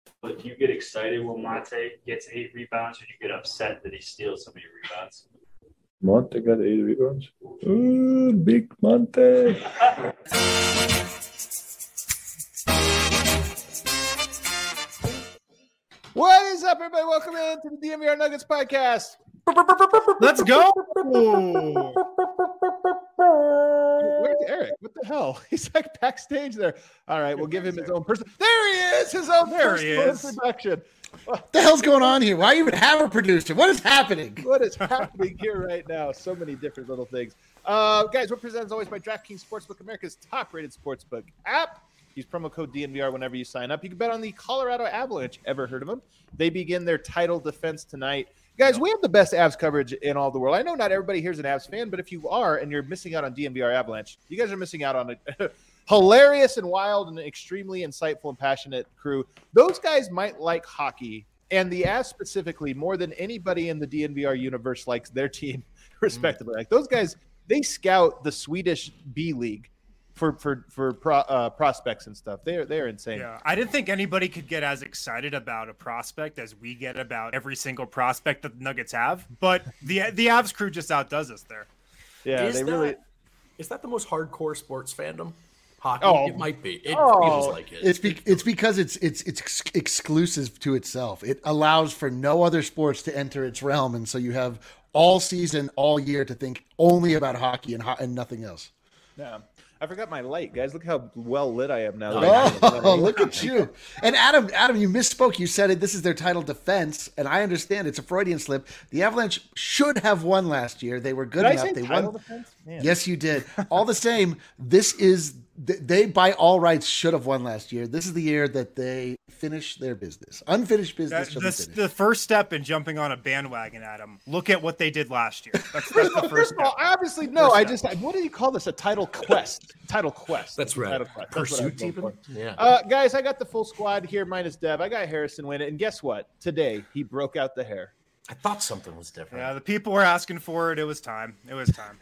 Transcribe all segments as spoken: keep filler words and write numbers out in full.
But do you get excited when Monte gets eight rebounds, or do you get upset that he steals so many rebounds? Monte got eight rebounds. Ooh, big Monte. What is up, everybody? Welcome in to the D N V R Nuggets podcast. Let's go. Where's Eric? What the hell? He's like backstage there. All right, we'll give him his own person. There he is, his own There he personal is. introduction. What the hell's going on here? Why even have a producer? What is happening? What is happening here right now? So many different little things. Uh, guys, we're presented as always by DraftKings Sportsbook, America's top-rated sportsbook app. Use promo code D N V R whenever you sign up. You can bet on the Colorado Avalanche. Ever heard of them? They begin their title defense tonight. Guys, we have the best Avs coverage in all the world. I know not everybody here is an Avs fan, but if you are and you're missing out on D N V R Avalanche, you guys are missing out on a hilarious and wild and extremely insightful and passionate crew. Those guys might like hockey, and the Avs specifically, more than anybody in the D N V R universe likes their team, respectively. Mm. Like those guys, they scout the Swedish B League for for for pro, uh, prospects and stuff. They're they're insane. Yeah, I didn't think anybody could get as excited about a prospect as we get about every single prospect that the Nuggets have. But the the Avs crew just outdoes us there. Yeah, is they that, really. Is that the most hardcore sports fandom? Hockey. Oh. It might be. It Oh. feels like it. It's be, it's because it's it's it's ex- exclusive to itself. It allows for no other sports to enter its realm, and so you have all season, all year to think only about hockey and ho- and nothing else. Yeah. I forgot my light, guys. Look how well lit I am now. Oh, look at you. And Adam, Adam, you misspoke. You said it. This is their title defense, and I understand it's a Freudian slip. The Avalanche should have won last year. They were good Did enough. I say they title won. defense? Man. Yes, you did. All the same, this is they by all rights should have won last year. This is the year that they finish their business. Unfinished business. That, shall be this, finished. the first step in jumping on a bandwagon, Adam. Look at what they did last year. That's, that's the first First of all, step. I obviously no. First I step. just what do you call this? A title quest. Title quest. That's right. Title quest. That's what I was Pursuit going team. for. Yeah. Uh, guys, I got the full squad here minus Dev. I got Harrison win it, and guess what? Today he broke out the hair. I thought something was different. Yeah, the people were asking for it. It was time. It was time.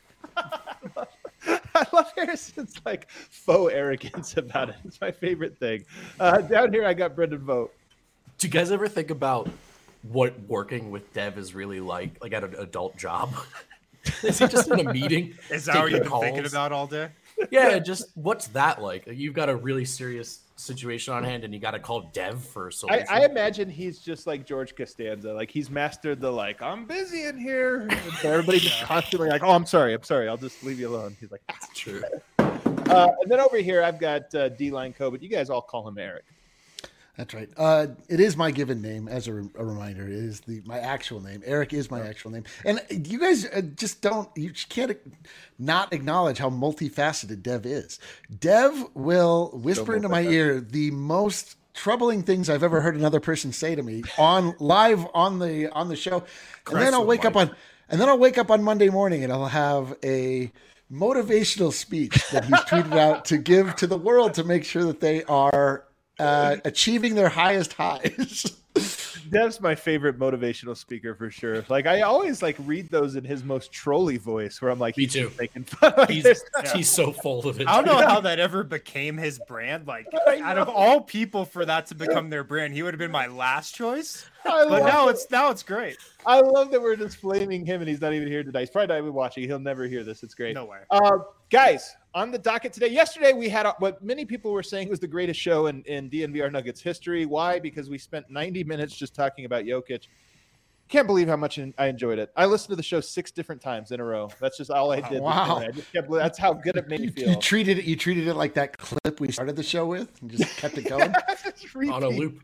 I love Harrison's like faux arrogance about it. It's my favorite thing. Uh, down here, I got Brendan Vogt. Do you guys ever think about what working with Dev is really like, like at an adult job? Is he just in a meeting? Is that what taking you've been calls? thinking about all day? Yeah, just what's that like? You've got a really serious situation on hand, and you got to call Dev for a I, solution. I imagine he's just like George Costanza. Like he's mastered the like, I'm busy in here. And so everybody just constantly like, oh, I'm sorry. I'm sorry. I'll just leave you alone. He's like, That's true. uh, and then over here, I've got uh, D-Line Co, but you guys all call him Eric. That's right. Uh, it is my given name, as a, re- a reminder. It is the my actual name. Eric is my actual name. And you guys uh, just don't, you just can't not acknowledge how multifaceted Dev is. Dev will whisper into my ear the most troubling things I've ever heard another person say to me on live on the on the show. And then I'll wake up on and then I'll wake up on Monday morning and I'll have a motivational speech that he's tweeted out to give to the world to make sure that they are Uh, achieving their highest highs. Dev's my favorite motivational speaker for sure. Like I always like read those in his most trolly voice, where I'm like, Me he's too. making fun. Like, He's, there's- he's so full of it. I don't know how that ever became his brand. Like, out of all people for that to become their brand, he would have been my last choice. I But love now it. it's now it's great. I love that we're just flaming him, and he's not even here today. He's probably not even watching. He'll never hear this. It's great. No way. Uh, guys, on the docket today, yesterday we had a, what many people were saying was the greatest show in, in D N V R Nuggets history. Why? Because we spent ninety minutes just talking about Jokic. Can't believe how much I enjoyed it. I listened to the show six different times in a row. That's just all I did. Wow. I just kept, that's how good it made me You, feel. you treated it. You treated it like that clip we started the show with, and just kept it going. Just repeat. On a loop.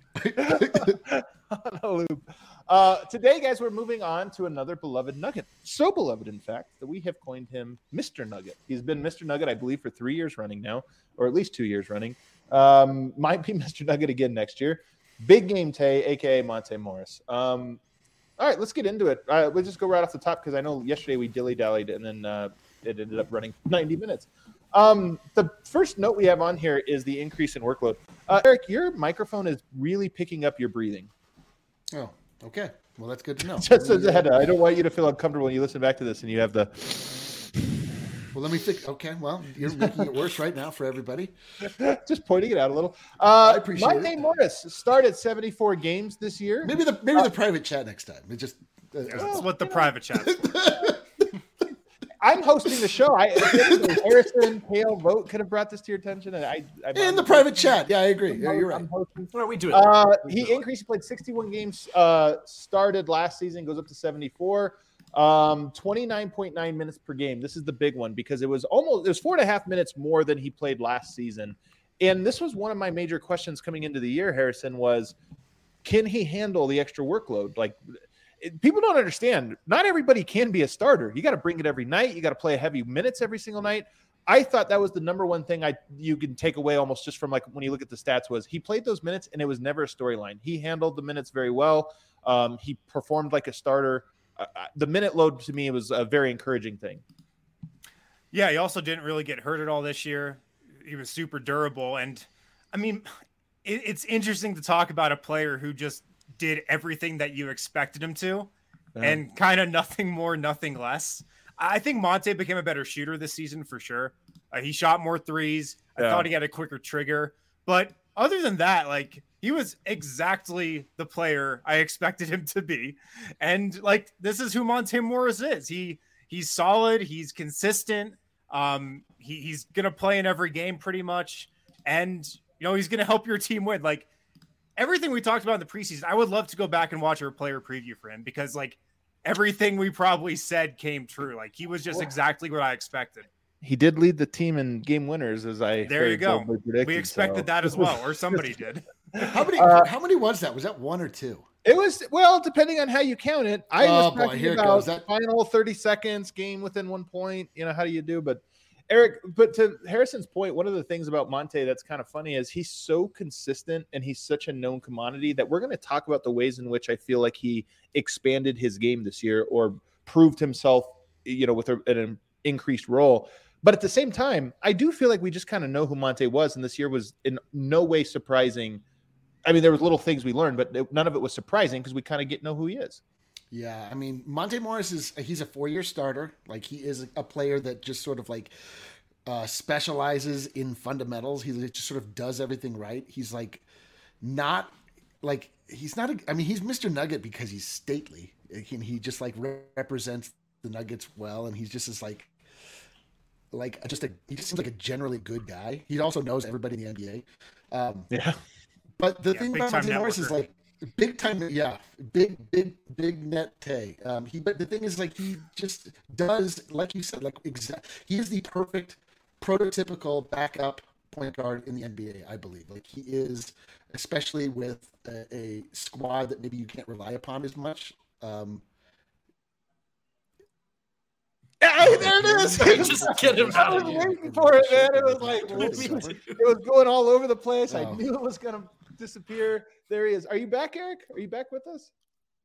On a loop. Uh, today, guys, we're moving on to another beloved Nugget. So beloved, in fact, that we have coined him Mister Nugget. He's been Mister Nugget, I believe, for three years running now, or at least two years running. Um, might be Mister Nugget again next year. Big Game Tay, a k a. Monte Morris. Um, all right, let's get into it. Uh, we'll just go right off the top because I know yesterday we dilly-dallied and then uh, it ended up running ninety minutes. Um, the first note we have on here is the increase in workload. Uh, Eric, your microphone is really picking up your breathing. Oh, okay. Well, that's good to know. Just as a head, I don't want you to feel uncomfortable when you listen back to this and you have the. Well, let me think. Okay, well, you're making it worse right now for everybody. Just pointing it out a little. Uh, I appreciate Monte it. Morris started seventy-four games this year. Maybe the maybe the private chat next time. It just uh, That's what the private chat. I'm hosting the show. I Harrison, Kale, Vote could have brought this to your attention, and I. I'm in the private chat. Yeah, I agree. Yeah, you're right. I'm hosting. Well, we do it. Uh, We he do it. increased. He played sixty-one games. Uh, started last season. Goes up to seventy-four. Um, twenty-nine point nine minutes per game. This is the big one because it was almost it was four and a half minutes more than he played last season. And this was one of my major questions coming into the year. Harrison was, can he handle the extra workload? Like. It, people don't understand. Not everybody can be a starter. You got to bring it every night. You got to play heavy minutes every single night. I thought that was the number one thing I you can take away almost just from like when you look at the stats was he played those minutes and it was never a storyline. He handled the minutes very well. Um, he performed like a starter. Uh, the minute load to me was a very encouraging thing. Yeah, he also didn't really get hurt at all this year. He was super durable. And I mean, it, it's interesting to talk about a player who just did everything that you expected him to yeah. and kind of nothing more, nothing less. I think Monte became a better shooter this season for sure. Uh, he shot more threes. I yeah. thought he had a quicker trigger, but other than that, like he was exactly the player I expected him to be. And like, this is who Monte Morris is. He he's solid. He's consistent. Um, he, he's going to play in every game pretty much. And, you know, he's going to help your team win. Like, everything we talked about in the preseason, I would love to go back and watch our player preview for him because like everything we probably said came true. Like he was just exactly what I expected. He did lead the team in game winners as I there you go. Predicted, we expected so. that as well, or somebody did. How many, uh, how many was that? Was that one or two? It was, well, depending on how you count it. I oh, was boy, talking here about goes. That final thirty seconds, game within one point. You know, how do you do? But Eric, but to Harrison's point, one of the things about Monte that's kind of funny is he's so consistent and he's such a known commodity that we're going to talk about the ways in which I feel like he expanded his game this year or proved himself, you know, with a, an increased role. But at the same time, I do feel like we just kind of know who Monte was, and this year was in no way surprising. I mean, there was little things we learned, but none of it was surprising because we kind of get know who he is. Yeah, I mean, Monte Morris is he's a four-year starter. Like he is a player that just sort of like uh, specializes in fundamentals. He just sort of does everything right. He's like not like he's not. A, I mean, he's Mister Nugget because he's stately. He, he just like represents the Nuggets well, and he's just as like like just a he just seems like a generally good guy. He also knows everybody in the N B A. Um, yeah, but the yeah, thing about Monte Morris is like. Big time, yeah, big, big, big net tay. Um, he, but the thing is, like, he just does, like you said, like exact. He is the perfect, prototypical backup point guard in the N B A. I believe, like, he is, especially with a, a squad that maybe you can't rely upon as much. Um, Hey, there it is. Just get him out I was of here. waiting for it, man. It was like it was going all over the place. I Oh. knew it was going to disappear. There he is. Are you back, Eric? Are you back with us?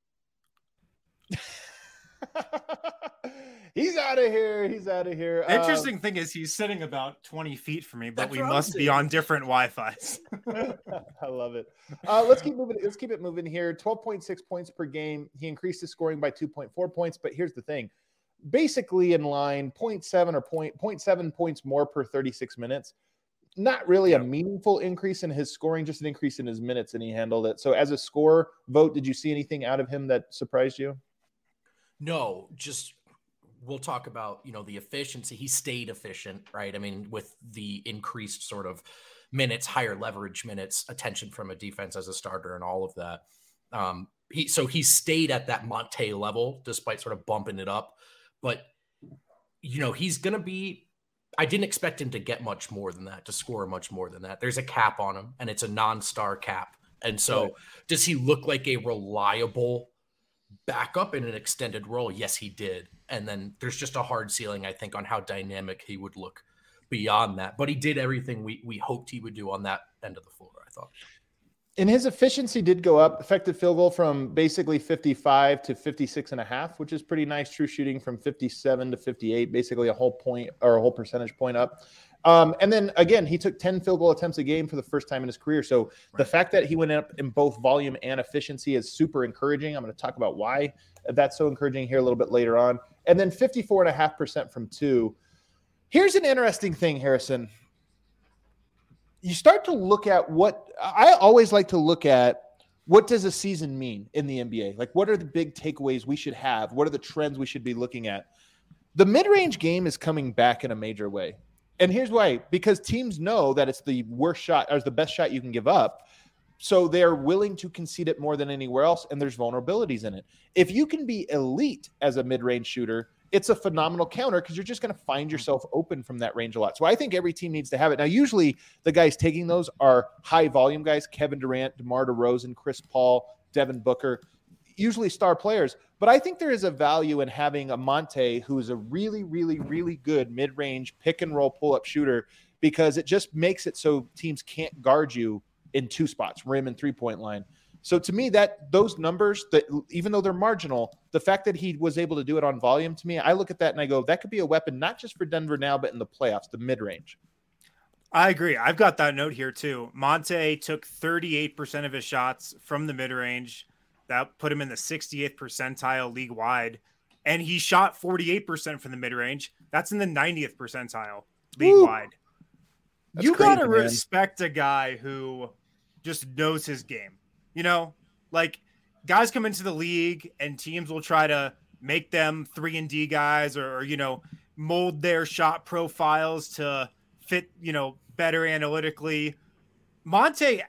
He's out of here. He's out of here. The interesting um, thing is he's sitting about twenty feet from me, but we must be saying. on different Wi-Fi's. I love it. Uh, let's keep moving. Let's keep it moving here. twelve point six points per game. He increased his scoring by two point four points, but here's the thing. Basically in line, zero point seven or zero point seven points more per thirty-six minutes. Not really a meaningful increase in his scoring, just an increase in his minutes, and he handled it. So as a scorer, Vote, did you see anything out of him that surprised you? No, just we'll talk about, you know, the efficiency. He stayed efficient, right? I mean, with the increased sort of minutes, higher leverage minutes, attention from a defense as a starter and all of that. Um, he so he stayed at that Monte level despite sort of bumping it up. But, you know, he's going to be – I didn't expect him to get much more than that, to score much more than that. There's a cap on him, and it's a non-star cap. And so right. Does he look like a reliable backup in an extended role? Yes, he did. And then there's just a hard ceiling, I think, on how dynamic he would look beyond that. But he did everything we, we hoped he would do on that end of the floor, I thought. And his efficiency did go up, effective field goal from basically fifty-five to fifty-six and a half, which is pretty nice. True shooting from fifty-seven to fifty-eight, basically a whole point or a whole percentage point up. Um, and then again, he took ten field goal attempts a game for the first time in his career. So right. The fact that he went up in both volume and efficiency is super encouraging. I'm going to talk about why that's so encouraging here a little bit later on. And then fifty-four and a half percent from two. Here's an interesting thing, Harrison. You start to look at what I always like to look at. What does a season mean in the N B A? Like, what are the big takeaways we should have? What are the trends we should be looking at? The mid-range game is coming back in a major way. And here's why. Because teams know that it's the worst shot or the best shot you can give up. So they're willing to concede it more than anywhere else, and there's vulnerabilities in it. If you can be elite as a mid-range shooter, it's a phenomenal counter because you're just going to find yourself open from that range a lot. So I think every team needs to have it. Now, usually the guys taking those are high-volume guys, Kevin Durant, DeMar DeRozan, Chris Paul, Devin Booker, usually star players. But I think there is a value in having a Monte who is a really, really, really good mid-range pick-and-roll pull-up shooter because it just makes it so teams can't guard you in two spots, rim and three-point line. So to me, that those numbers, that even though they're marginal, the fact that he was able to do it on volume, to me, I look at that and I go, that could be a weapon, not just for Denver now, but in the playoffs, the mid-range. I agree. I've got that note here too. Monte took thirty-eight percent of his shots from the mid-range. That put him in the sixty-eighth percentile league-wide. And he shot forty-eight percent from the mid-range. That's in the ninetieth percentile league-wide. You got to respect a guy who just knows his game. You know, like guys come into the league and teams will try to make them three and D guys or, or, you know, mold their shot profiles to fit, you know, better analytically. Monte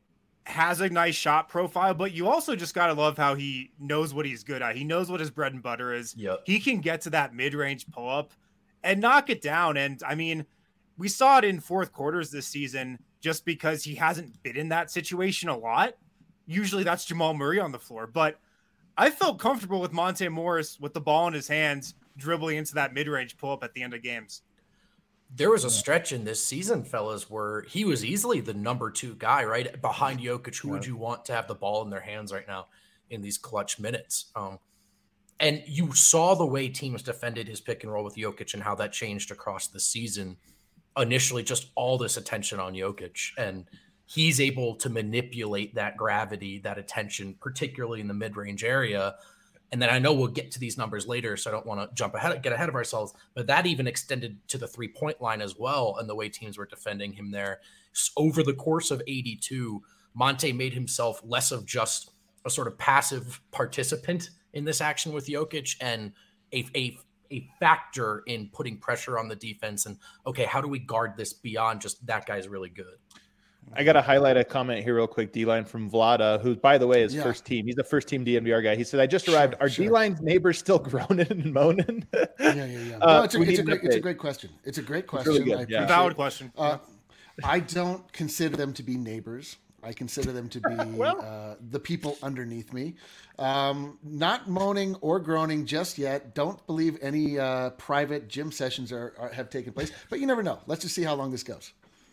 has a nice shot profile, but you also just got to love how he knows what he's good at. He knows what his bread and butter is. Yep. He can get to that mid-range pull-up and knock it down. And I mean, we saw it in fourth quarters this season just because he hasn't been in that situation a lot. Usually that's Jamal Murray on the floor, but I felt comfortable with Monte Morris with the ball in his hands, dribbling into that mid-range pull-up at the end of games. There was a stretch in this season, fellas, where he was easily the number two guy, right? Behind Jokic. Who yeah. would you want to have the ball in their hands right now in these clutch minutes? Um, and you saw the way teams defended his pick and roll with Jokic and how that changed across the season. Initially, just all this attention on Jokic, and he's able to manipulate that gravity, that attention, particularly in the mid-range area. And then I know we'll get to these numbers later, so I don't want to jump ahead, get ahead of ourselves, but that even extended to the three-point line as well, and the way teams were defending him there. So over the course of eighty-two, Monte made himself less of just a sort of passive participant in this action with Jokic and a, a, a factor in putting pressure on the defense. And, okay, how do we guard this beyond just that guy's really good? I got to highlight a comment here real quick, D-Line from Vlada, who, by the way, is yeah. first team. He's the first team D N V R guy. He said, I just arrived. Sure, Are sure. D-Line's neighbors still groaning and moaning? yeah, yeah, yeah. Uh, no, it's, a, it's, a great, it's a great question. It's a great question. It's really good. Yeah. Valid question. Uh, I don't consider them to be neighbors. I consider them to be well, uh, the people underneath me. Um, not moaning or groaning just yet. Don't believe any uh, private gym sessions are, are have taken place. But you never know. Let's just see how long this goes.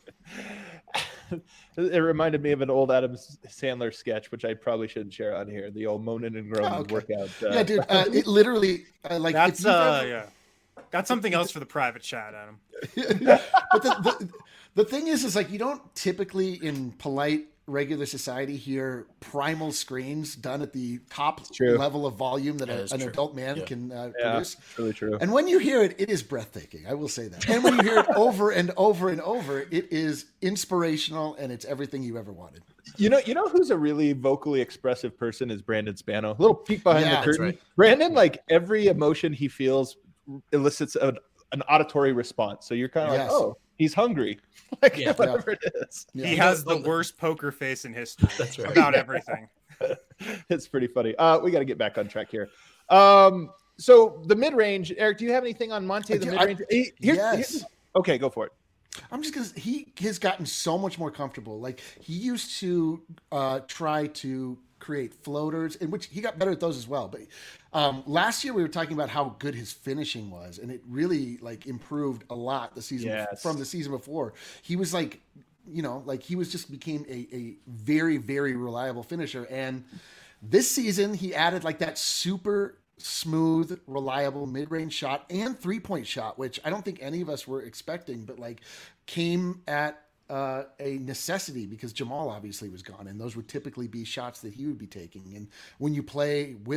It reminded me of an old Adam Sandler sketch, which I probably shouldn't share on here. The old moaning and groaning oh, okay. workout. Uh, yeah, dude. Uh, it literally uh, like that's uh, ever... yeah. Got something else for the private chat, Adam. But the, the the thing is, is like you don't typically in polite regular society hear primal screams done at the top level of volume that, that a, an true. adult man yeah. can uh, yeah, produce. It's really true. And when you hear it, it is breathtaking. I will say that. And when you hear it over and over and over, it is inspirational and it's everything you ever wanted. You know, you know who's a really vocally expressive person is Brandon Spano. A little peek behind yeah, the curtain. Right. Brandon, like every emotion he feels elicits a, an auditory response. So you're kind of yes. like, oh, he's hungry. Like yeah, whatever yeah. it is. Yeah. He has the worst poker face in history. That's right. About everything. It's pretty funny. Uh, we got to get back on track here. Um, so the mid-range, Eric, do you have anything on Monte, the mid-range? I, Here's, yes. Here's, okay, go for it. I'm just because he has gotten so much more comfortable. Like he used to uh, try to create floaters, in which he got better at those as well. But um, last year we were talking about how good his finishing was, and it really like improved a lot the season yes. from the season before. He was like, you know, like he was just became a, a very, very reliable finisher. And this season he added like that super smooth, reliable mid-range shot and three-point shot, which I don't think any of us were expecting, but like came at uh, a necessity because Jamal obviously was gone, and those would typically be shots that he would be taking. And when you play with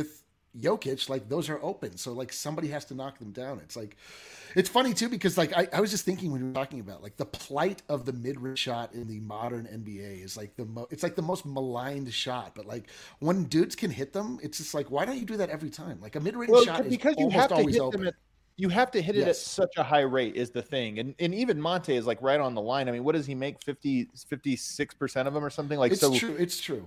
Jokic, like those are open. So like somebody has to knock them down. It's like, it's funny too, because like I, I was just thinking when we were talking about like the plight of the mid-range shot in the modern N B A is like the mo- it's like the most maligned shot. But like when dudes can hit them, it's just like, why don't you do that every time? Like a mid-range Well, shot is because you almost have to always hit open. them at you have to hit it at Yes. such a high rate is the thing. And and even Monte is like right on the line. I mean, what does he make? fifty, fifty-six percent of them or something like It's so. true. It's true.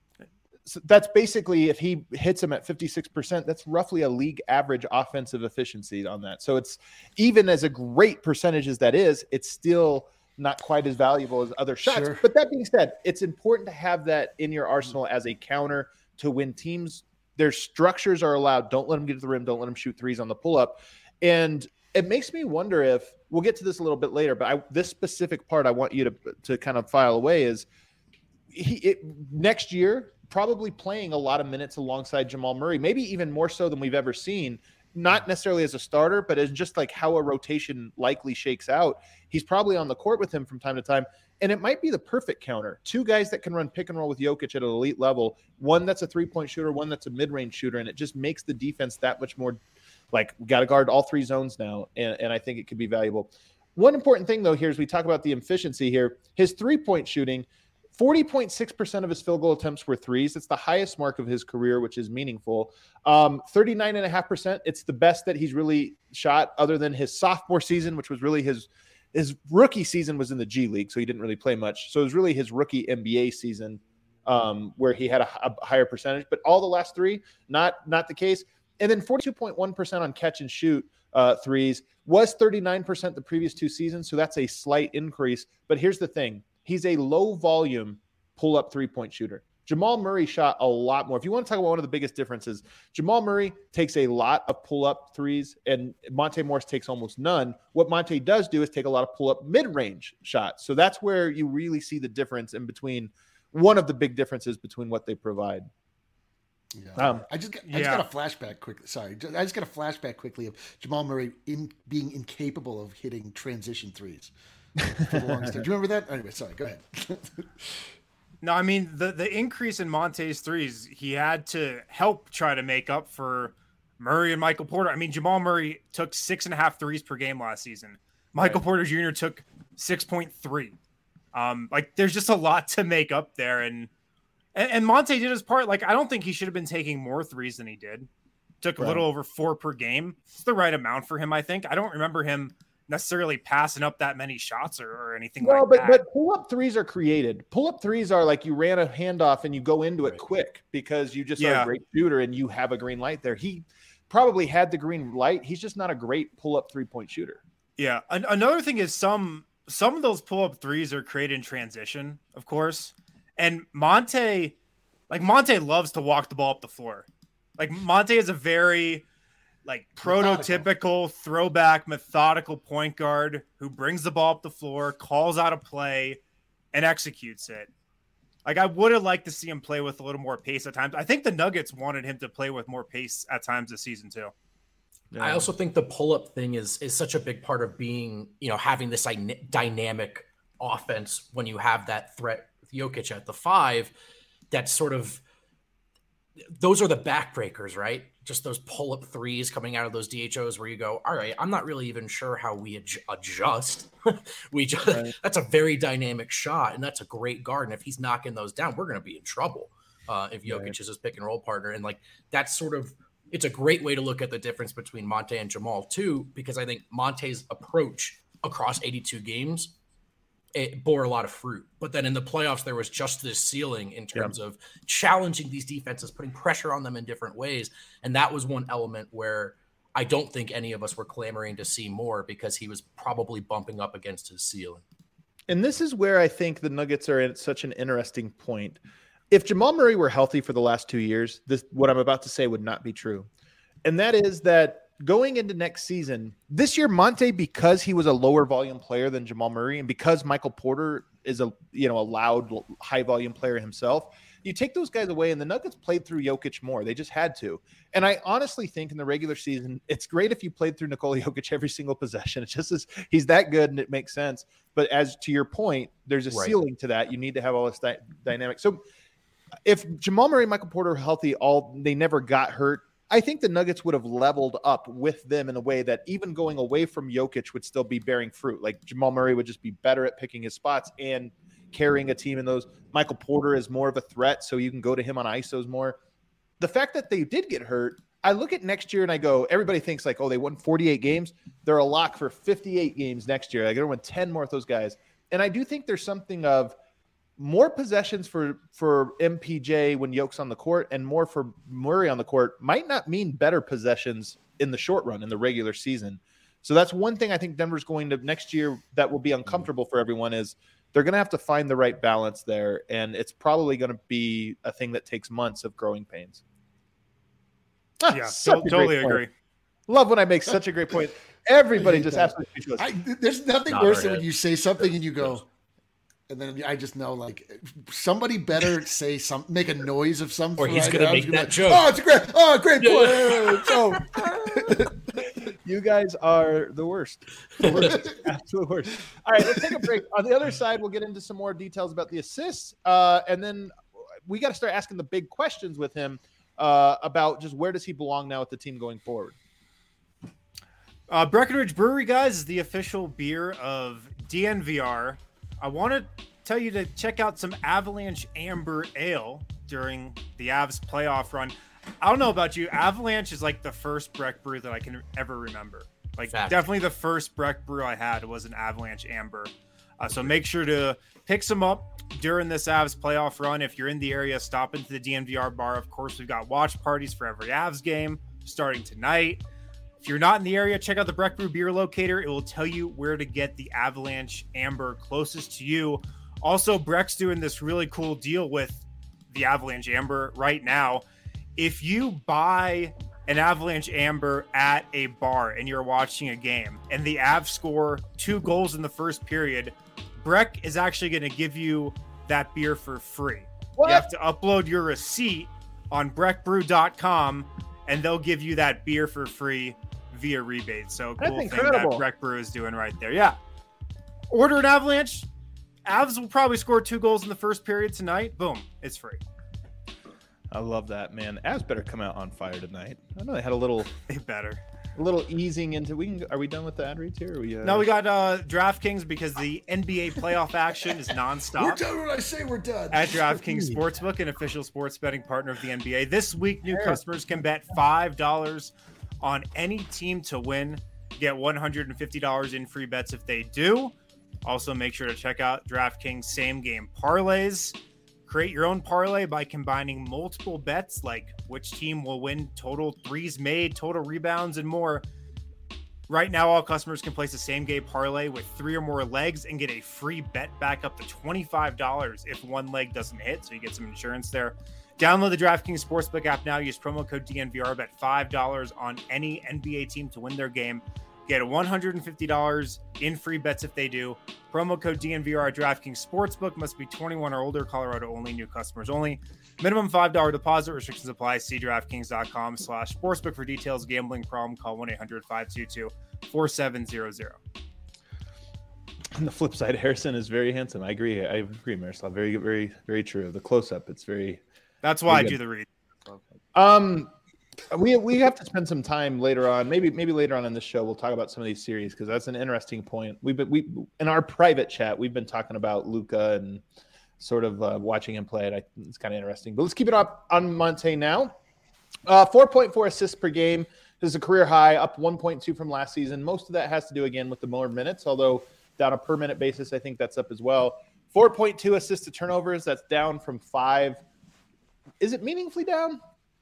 So that's basically if he hits him at fifty-six percent, that's roughly a league average offensive efficiency on that. So it's even as a great percentage as that is, it's still not quite as valuable as other shots. Sure. But that being said, it's important to have that in your arsenal as a counter to when teams, their structures are allowed. Don't let them get to the rim. Don't let them shoot threes on the pull up. And it makes me wonder if we'll get to this a little bit later, but I, this specific part I want you to, to kind of file away is he it, next year, probably playing a lot of minutes alongside Jamal Murray, maybe even more so than we've ever seen, not necessarily as a starter, but as just like how a rotation likely shakes out. He's probably on the court with him from time to time. And it might be the perfect counter. Two guys that can run pick and roll with Jokic at an elite level, one that's a three-point shooter, one that's a mid-range shooter, and it just makes the defense that much more like we got to guard all three zones now, and, and I think it could be valuable. One important thing, though, here is we talk about the efficiency here. His three-point shooting, forty point six percent of his field goal attempts were threes. It's the highest mark of his career, which is meaningful. Um, thirty-nine point five percent. It's the best that he's really shot other than his sophomore season, which was really his his rookie season was in the G League, so he didn't really play much. So it was really his rookie N B A season um, where he had a, a higher percentage. But all the last three, not not the case. And then forty-two point one percent on catch and shoot uh, threes was thirty-nine percent the previous two seasons. So that's a slight increase. But here's the thing. He's a low volume pull up three point shooter. Jamal Murray shot a lot more. If you want to talk about one of the biggest differences, Jamal Murray takes a lot of pull up threes and Monte Morris takes almost none. What Monte does do is take a lot of pull up mid range shots. So that's where you really see the difference in between one of the big differences between what they provide. Yeah. Um, I just got, I yeah. just got a flashback quickly. Sorry, I just got a flashback quickly of Jamal Murray in being incapable of hitting transition threes for the longest time. Do you remember that? Anyway, sorry. Go ahead. No, I mean the the increase in Monte's threes, he had to help try to make up for Murray and Michael Porter. I mean, Jamal Murray took six and a half threes per game last season. Michael Right. Porter Junior took six point three. Um, like there's just a lot to make up there, and, and and Monte did his part. Like I don't think he should have been taking more threes than he did. Took a Right. little over four per game. It's the right amount for him, I think. I don't remember him necessarily passing up that many shots or, or anything Well, like but that. but pull up threes are created. Pull up threes are like you ran a handoff and you go into it Right. quick because you just are Yeah. a great shooter and you have a green light there. He probably had the green light. He's just not a great pull up three point shooter. Yeah. An- another thing is some some of those pull up threes are created in transition, of course. And Monte, like Monte loves to walk the ball up the floor. Like Monte is a very like prototypical throwback methodical point guard who brings the ball up the floor, calls out a play, and executes it. Like I would have liked to see him play with a little more pace at times. I think the Nuggets wanted him to play with more pace at times this season too. I also think the pull-up thing is is such a big part of being, you know, having this dyna- dynamic offense when you have that threat with Jokic at the five. That's sort of those are the backbreakers, right? Just those pull-up threes coming out of those D H Os where you go, all right, I'm not really even sure how we ad- adjust. we just Right. That's a very dynamic shot, and that's a great guard. And if he's knocking those down, we're going to be in trouble. Uh, if Jokic Right. is his pick and roll partner, and like that's sort of it's a great way to look at the difference between Monte and Jamal too, because I think Monte's approach across eighty-two games, it bore a lot of fruit. But then in the playoffs, there was just this ceiling in terms of challenging these defenses, putting pressure on them in different ways. And that was one element where I don't think any of us were clamoring to see more because he was probably bumping up against his ceiling. And this is where I think the Nuggets are at such an interesting point. If Jamal Murray were healthy for the last two years, this what I'm about to say would not be true. And that is that going into next season, this year, Monte, because he was a lower volume player than Jamal Murray, and because Michael Porter is a you know a loud, high volume player himself, you take those guys away, and the Nuggets played through Jokic more. They just had to. And I honestly think in the regular season, it's great if you played through Nikola Jokic every single possession. It's just as he's that good, and it makes sense. But as to your point, there's a Right. ceiling to that. You need to have all this dy- dynamic. So if Jamal Murray and Michael Porter were healthy, all they never got hurt, I think the Nuggets would have leveled up with them in a way that even going away from Jokic would still be bearing fruit. Like Jamal Murray would just be better at picking his spots and carrying a team in those. Michael Porter is more of a threat, so you can go to him on I S Os more. The fact that they did get hurt, I look at next year and I go, everybody thinks like, oh, they won forty-eight games. They're a lock for fifty-eight games next year. Like they're going to win ten more of those guys. And I do think there's something of more possessions for, for M P J when Yoke's on the court and more for Murray on the court might not mean better possessions in the short run in the regular season. So that's one thing I think Denver's going to next year that will be uncomfortable for everyone is they're going to have to find the right balance there. And it's probably going to be a thing that takes months of growing pains. Ah, yeah, to- totally agree. Love when I make such a great point. Everybody just that. absolutely speechless. I, there's nothing Not worse our than when head. you say something and you go, and then I just know like somebody better say some, make a noise of some. Or he's right gonna now. make I'm that be joke. Oh, it's a great, oh, great point. So, You guys are the worst. The worst. Absolute worst. All right, let's take a break. On the other side, we'll get into some more details about the assists. Uh, and then we got to start asking the big questions with him uh, about just where does he belong now with the team going forward. Uh, Breckenridge Brewery, guys, is the official beer of D N V R. I want to tell you to check out some Avalanche Amber Ale during the Avs playoff run. I don't know about you. Avalanche is like the first Breck brew that I can ever remember. Like Fact. definitely the first Breck brew I had was an Avalanche Amber. Uh, so make sure to pick some up during this Avs playoff run. If you're in the area, stop into the D N V R bar. Of course, we've got watch parties for every Avs game starting tonight. If you're not in the area, check out the Breck Brew Beer Locator. It will tell you where to get the Avalanche Amber closest to you. Also, Breck's doing this really cool deal with the Avalanche Amber right now. If you buy an Avalanche Amber at a bar and you're watching a game and the Avs score two goals in the first period, Breck is actually going to give you that beer for free. What? You have to upload your receipt on breck brew dot com and they'll give you that beer for free via rebate. So That's cool thing incredible. that Breck Brew is doing right there. Yeah. Order an Avalanche. Avs will probably score two goals in the first period tonight. Boom. It's free. I love that, man. Avs better come out on fire tonight. I know they had a little They better. a little easing into we can are we done with the ad reads here? Are we, uh... No, we got uh, DraftKings because the N B A playoff action is we're nonstop done when I say we're done. at DraftKings Sportsbook, an official sports betting partner of the N B A. This week, new customers can bet five dollars on any team to win. Get one hundred fifty dollars in free bets if they do. Also, make sure to check out DraftKings same game parlays. Create your own parlay by combining multiple bets like which team will win, total threes made, total rebounds, and more. Right now, all customers can place a same game parlay with three or more legs and get a free bet back up to twenty-five dollars if one leg doesn't hit, so you get some insurance there. Download the DraftKings Sportsbook app now. Use promo code D N V R. Bet five dollars on any N B A team to win their game. Get one hundred fifty dollars in free bets if they do. Promo code D N V R at DraftKings Sportsbook. Must be twenty-one or older. Colorado only. New customers only. Minimum five dollars deposit. Restrictions apply. See DraftKings.com slash sportsbook for details. Gambling problem. Call one eight hundred five two two four seven zero zero. On the flip side, Harrison is very handsome. I agree. I agree, Miroslav. Very, very, very true. The close up, it's very. That's why Very I good. do the read. Um, we we have to spend some time later on. Maybe maybe later on in this show we'll talk about some of these series because that's an interesting point. We've been we in our private chat we've been talking about Luka and sort of uh, watching him play. And I, it's kind of interesting. But let's keep it up on Monte now. Uh, four point four assists per game. This is a career high, up one point two from last season. Most of that has to do again with the more minutes, although down a per minute basis, I think that's up as well. four point two assists to turnovers. That's down from five. Is it meaningfully down?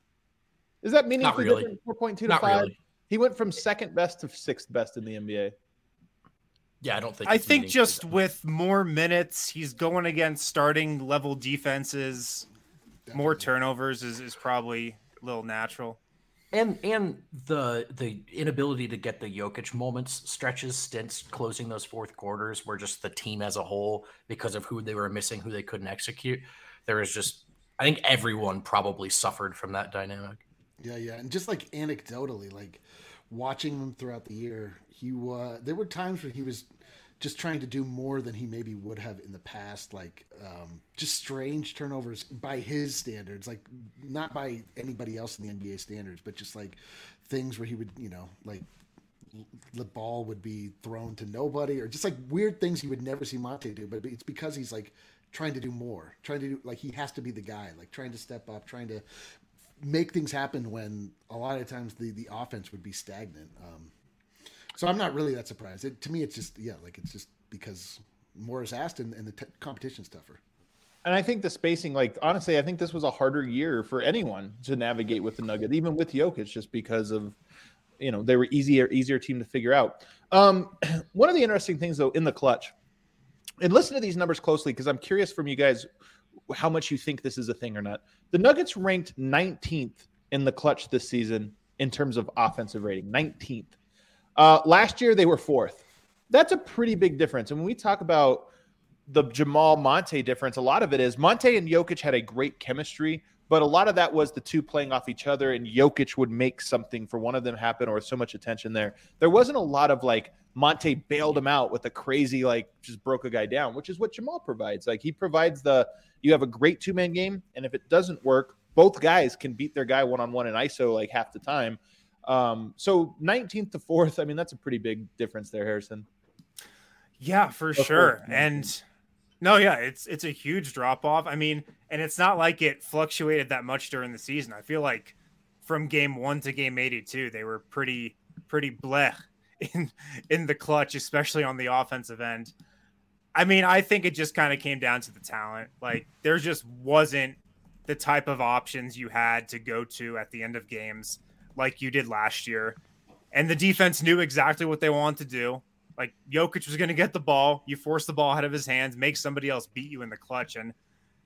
Is that meaningfully really. different? four point two to Not five. really. He went from second best to sixth best in the N B A. Yeah, I don't think. I it's think meaningfully just done. with more minutes, he's going against starting level defenses. More turnovers is, is probably a little natural. and and the the inability to get the Jokic moments, stretches, stints, closing those fourth quarters, where just the team as a whole, because of who they were missing, who they couldn't execute, there was just. I think everyone probably suffered from that dynamic. Yeah, yeah, and just like anecdotally, like watching him throughout the year, he uh, there were times where he was just trying to do more than he maybe would have in the past. Like um, just strange turnovers by his standards, like not by anybody else in the N B A standards, but just like things where he would, you know, like the ball would be thrown to nobody, or just like weird things you would never see Monte do. But it's because he's like trying to do more, trying to do like he has to be the guy, like trying to step up, trying to make things happen when a lot of times the, the offense would be stagnant. Um, so I'm not really that surprised. It, to me, it's just, yeah, like it's just because more is asked and, and the t- competition's tougher. And I think the spacing, like, honestly, I think this was a harder year for anyone to navigate with the Nuggets, even with Jokic, just because of, you know, they were easier, easier team to figure out. Um, one of the interesting things, though, in the clutch, and listen to these numbers closely because I'm curious from you guys how much you think this is a thing or not. The Nuggets ranked nineteenth in the clutch this season in terms of offensive rating, nineteenth. Uh, last year, they were fourth. That's a pretty big difference. And when we talk about the Jamal Monte difference, a lot of it is Monte and Jokic had a great chemistry, but a lot of that was the two playing off each other, and Jokic would make something for one of them happen, or so much attention there. There wasn't a lot of like Monte bailed him out with a crazy, like just broke a guy down, which is what Jamal provides. Like he provides the, you have a great two-man game, and if it doesn't work, both guys can beat their guy one-on-one in I S O like half the time. Um, so nineteenth to fourth, I mean, that's a pretty big difference there, Harrison. Yeah, for Of sure. course. And no, yeah, it's it's a huge drop off. I mean, and it's not like it fluctuated that much during the season. I feel like from game one to game eighty-two, they were pretty pretty blech in in the clutch, especially on the offensive end. I mean, I think it just kind of came down to the talent. Like there just wasn't the type of options you had to go to at the end of games like you did last year. And the defense knew exactly what they wanted to do. Like Jokic was going to get the ball. You force the ball out of his hands, make somebody else beat you in the clutch. And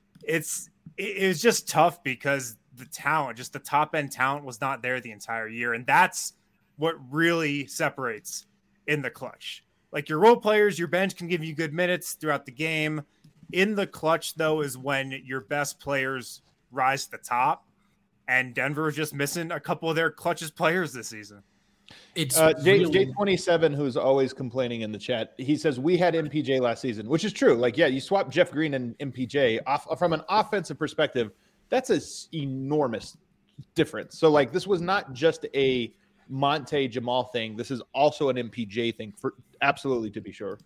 it's, it, it was just tough because the talent, just the top end talent was not there the entire year. And that's what really separates in the clutch. Like your role players, your bench can give you good minutes throughout the game. In the clutch though, is when your best players rise to the top. And Denver is just missing a couple of their clutchest players this season. It's Uh, J, really... J twenty-seven, who's always complaining in the chat, he says we had M P J last season, which is true. Like, yeah, you swap Jeff Green and M P J off from an offensive perspective. That's an enormous difference. So, like, this was not just a Monte Jamal thing. This is also an M P J thing, for absolutely, to be sure.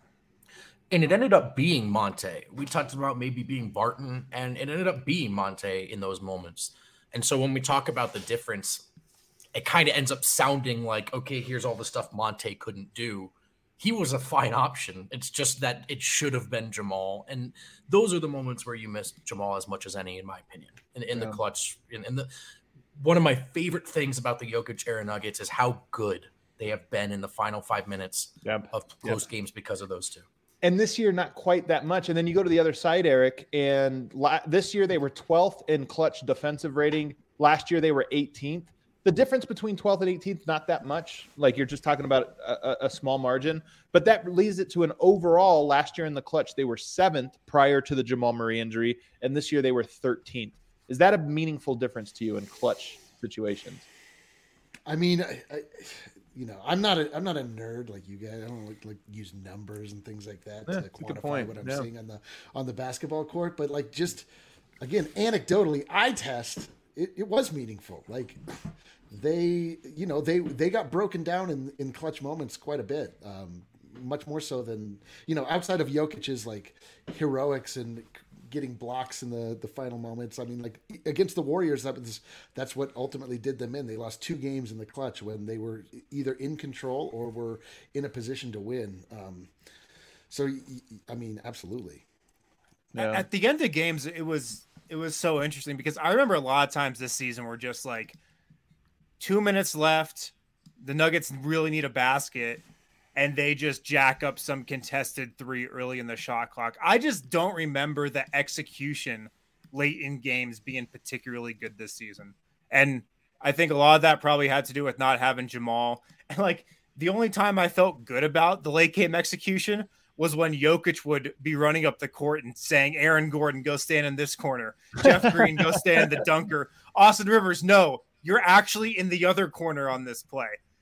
And it ended up being Monte. We talked about maybe being Barton, and it ended up being Monte in those moments. And so when we talk about the difference, it kind of ends up sounding like, okay, here's all the stuff Monte couldn't do. He was a fine option. It's just that it should have been Jamal. And those are the moments where you miss Jamal as much as any, in my opinion, in, in yeah. the clutch. In, in the one of my favorite things about the Jokic era Nuggets is how good they have been in the final five minutes yep. of close yep. games because of those two. And this year, not quite that much. And then you go to the other side, Eric, and la- this year they were twelfth in clutch defensive rating. Last year they were eighteenth. The difference between twelfth and eighteenth, not that much. Like you're just talking about a, a small margin. But that leads it to an overall, last year in the clutch, they were seventh prior to the Jamal Murray injury. And this year they were thirteenth. Is that a meaningful difference to you in clutch situations? I mean, I, I, you know, I'm not a I'm not a nerd like you guys. I don't like, like use numbers and things like that yeah, to quantify what I'm yeah. seeing on the on the basketball court. But like, just again, anecdotally, eye test. It, it was meaningful. Like they, you know, they they got broken down in in clutch moments quite a bit. Um, much more so than, you know, outside of Jokic's like heroics and getting blocks in the, the final moments. I mean, like against the Warriors, that was, that's what ultimately did them in. They lost two games in the clutch when they were either in control or were in a position to win. Um, so, I mean, absolutely. Yeah. At the end of games, it was, it was so interesting because I remember a lot of times this season were just like two minutes left. The Nuggets really need a basket. And they just jack up some contested three early in the shot clock. I just don't remember the execution late in games being particularly good this season. And I think a lot of that probably had to do with not having Jamal. And like the only time I felt good about the late game execution was when Jokic would be running up the court and saying, Aaron Gordon, go stand in this corner. Jeff Green, go stand in the dunker. Austin Rivers, no, you're actually in the other corner on this play.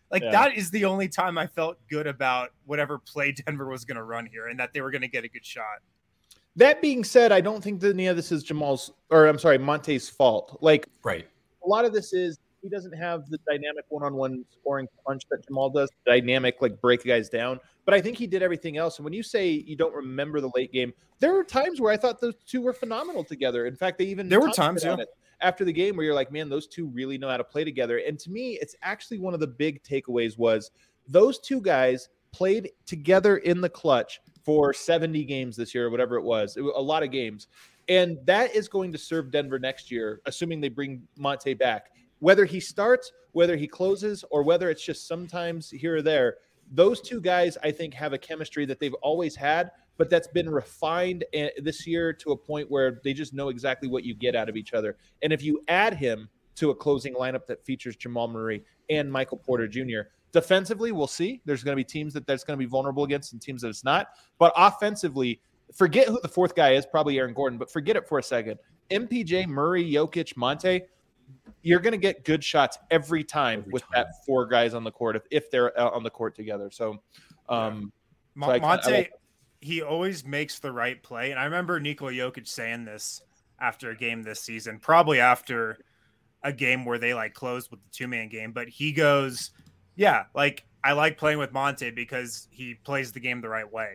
Like Yeah. that is the only time I felt good about whatever play Denver was going to run here and that they were going to get a good shot. That being said, I don't think that any of this is Jamal's, or I'm sorry, Monte's fault. Like, Right. a lot of this is he doesn't have the dynamic one-on-one scoring punch that Jamal does, dynamic, like break guys down. But I think he did everything else. And when you say you don't remember the late game, there were times where I thought those two were phenomenal together. In fact, they even There were talked times, about yeah. it after the game where you're like, man, those two really know how to play together. And to me, it's actually one of the big takeaways was those two guys played together in the clutch for seventy games this year or whatever it was. It was a lot of games. And that is going to serve Denver next year, assuming they bring Monte back. Whether he starts, whether he closes, or whether it's just sometimes here or there, those two guys, I think, have a chemistry that they've always had, but that's been refined this year to a point where they just know exactly what you get out of each other. And if you add him to a closing lineup that features Jamal Murray and Michael Porter Junior, defensively, we'll see. There's going to be teams that that's going to be vulnerable against and teams that it's not. But offensively, forget who the fourth guy is, probably Aaron Gordon, but forget it for a second. M P J, Murray, Jokic, Monte, you're going to get good shots every time Every with time. that four guys on the court if, if they're out on the court together. So, um, Mo- so I- I Monte, like- he always makes the right play. And I remember Nikola Jokic saying this after a game this season, probably after a game where they like closed with the two-man game. But he goes, yeah, like I like playing with Monte because he plays the game the right way.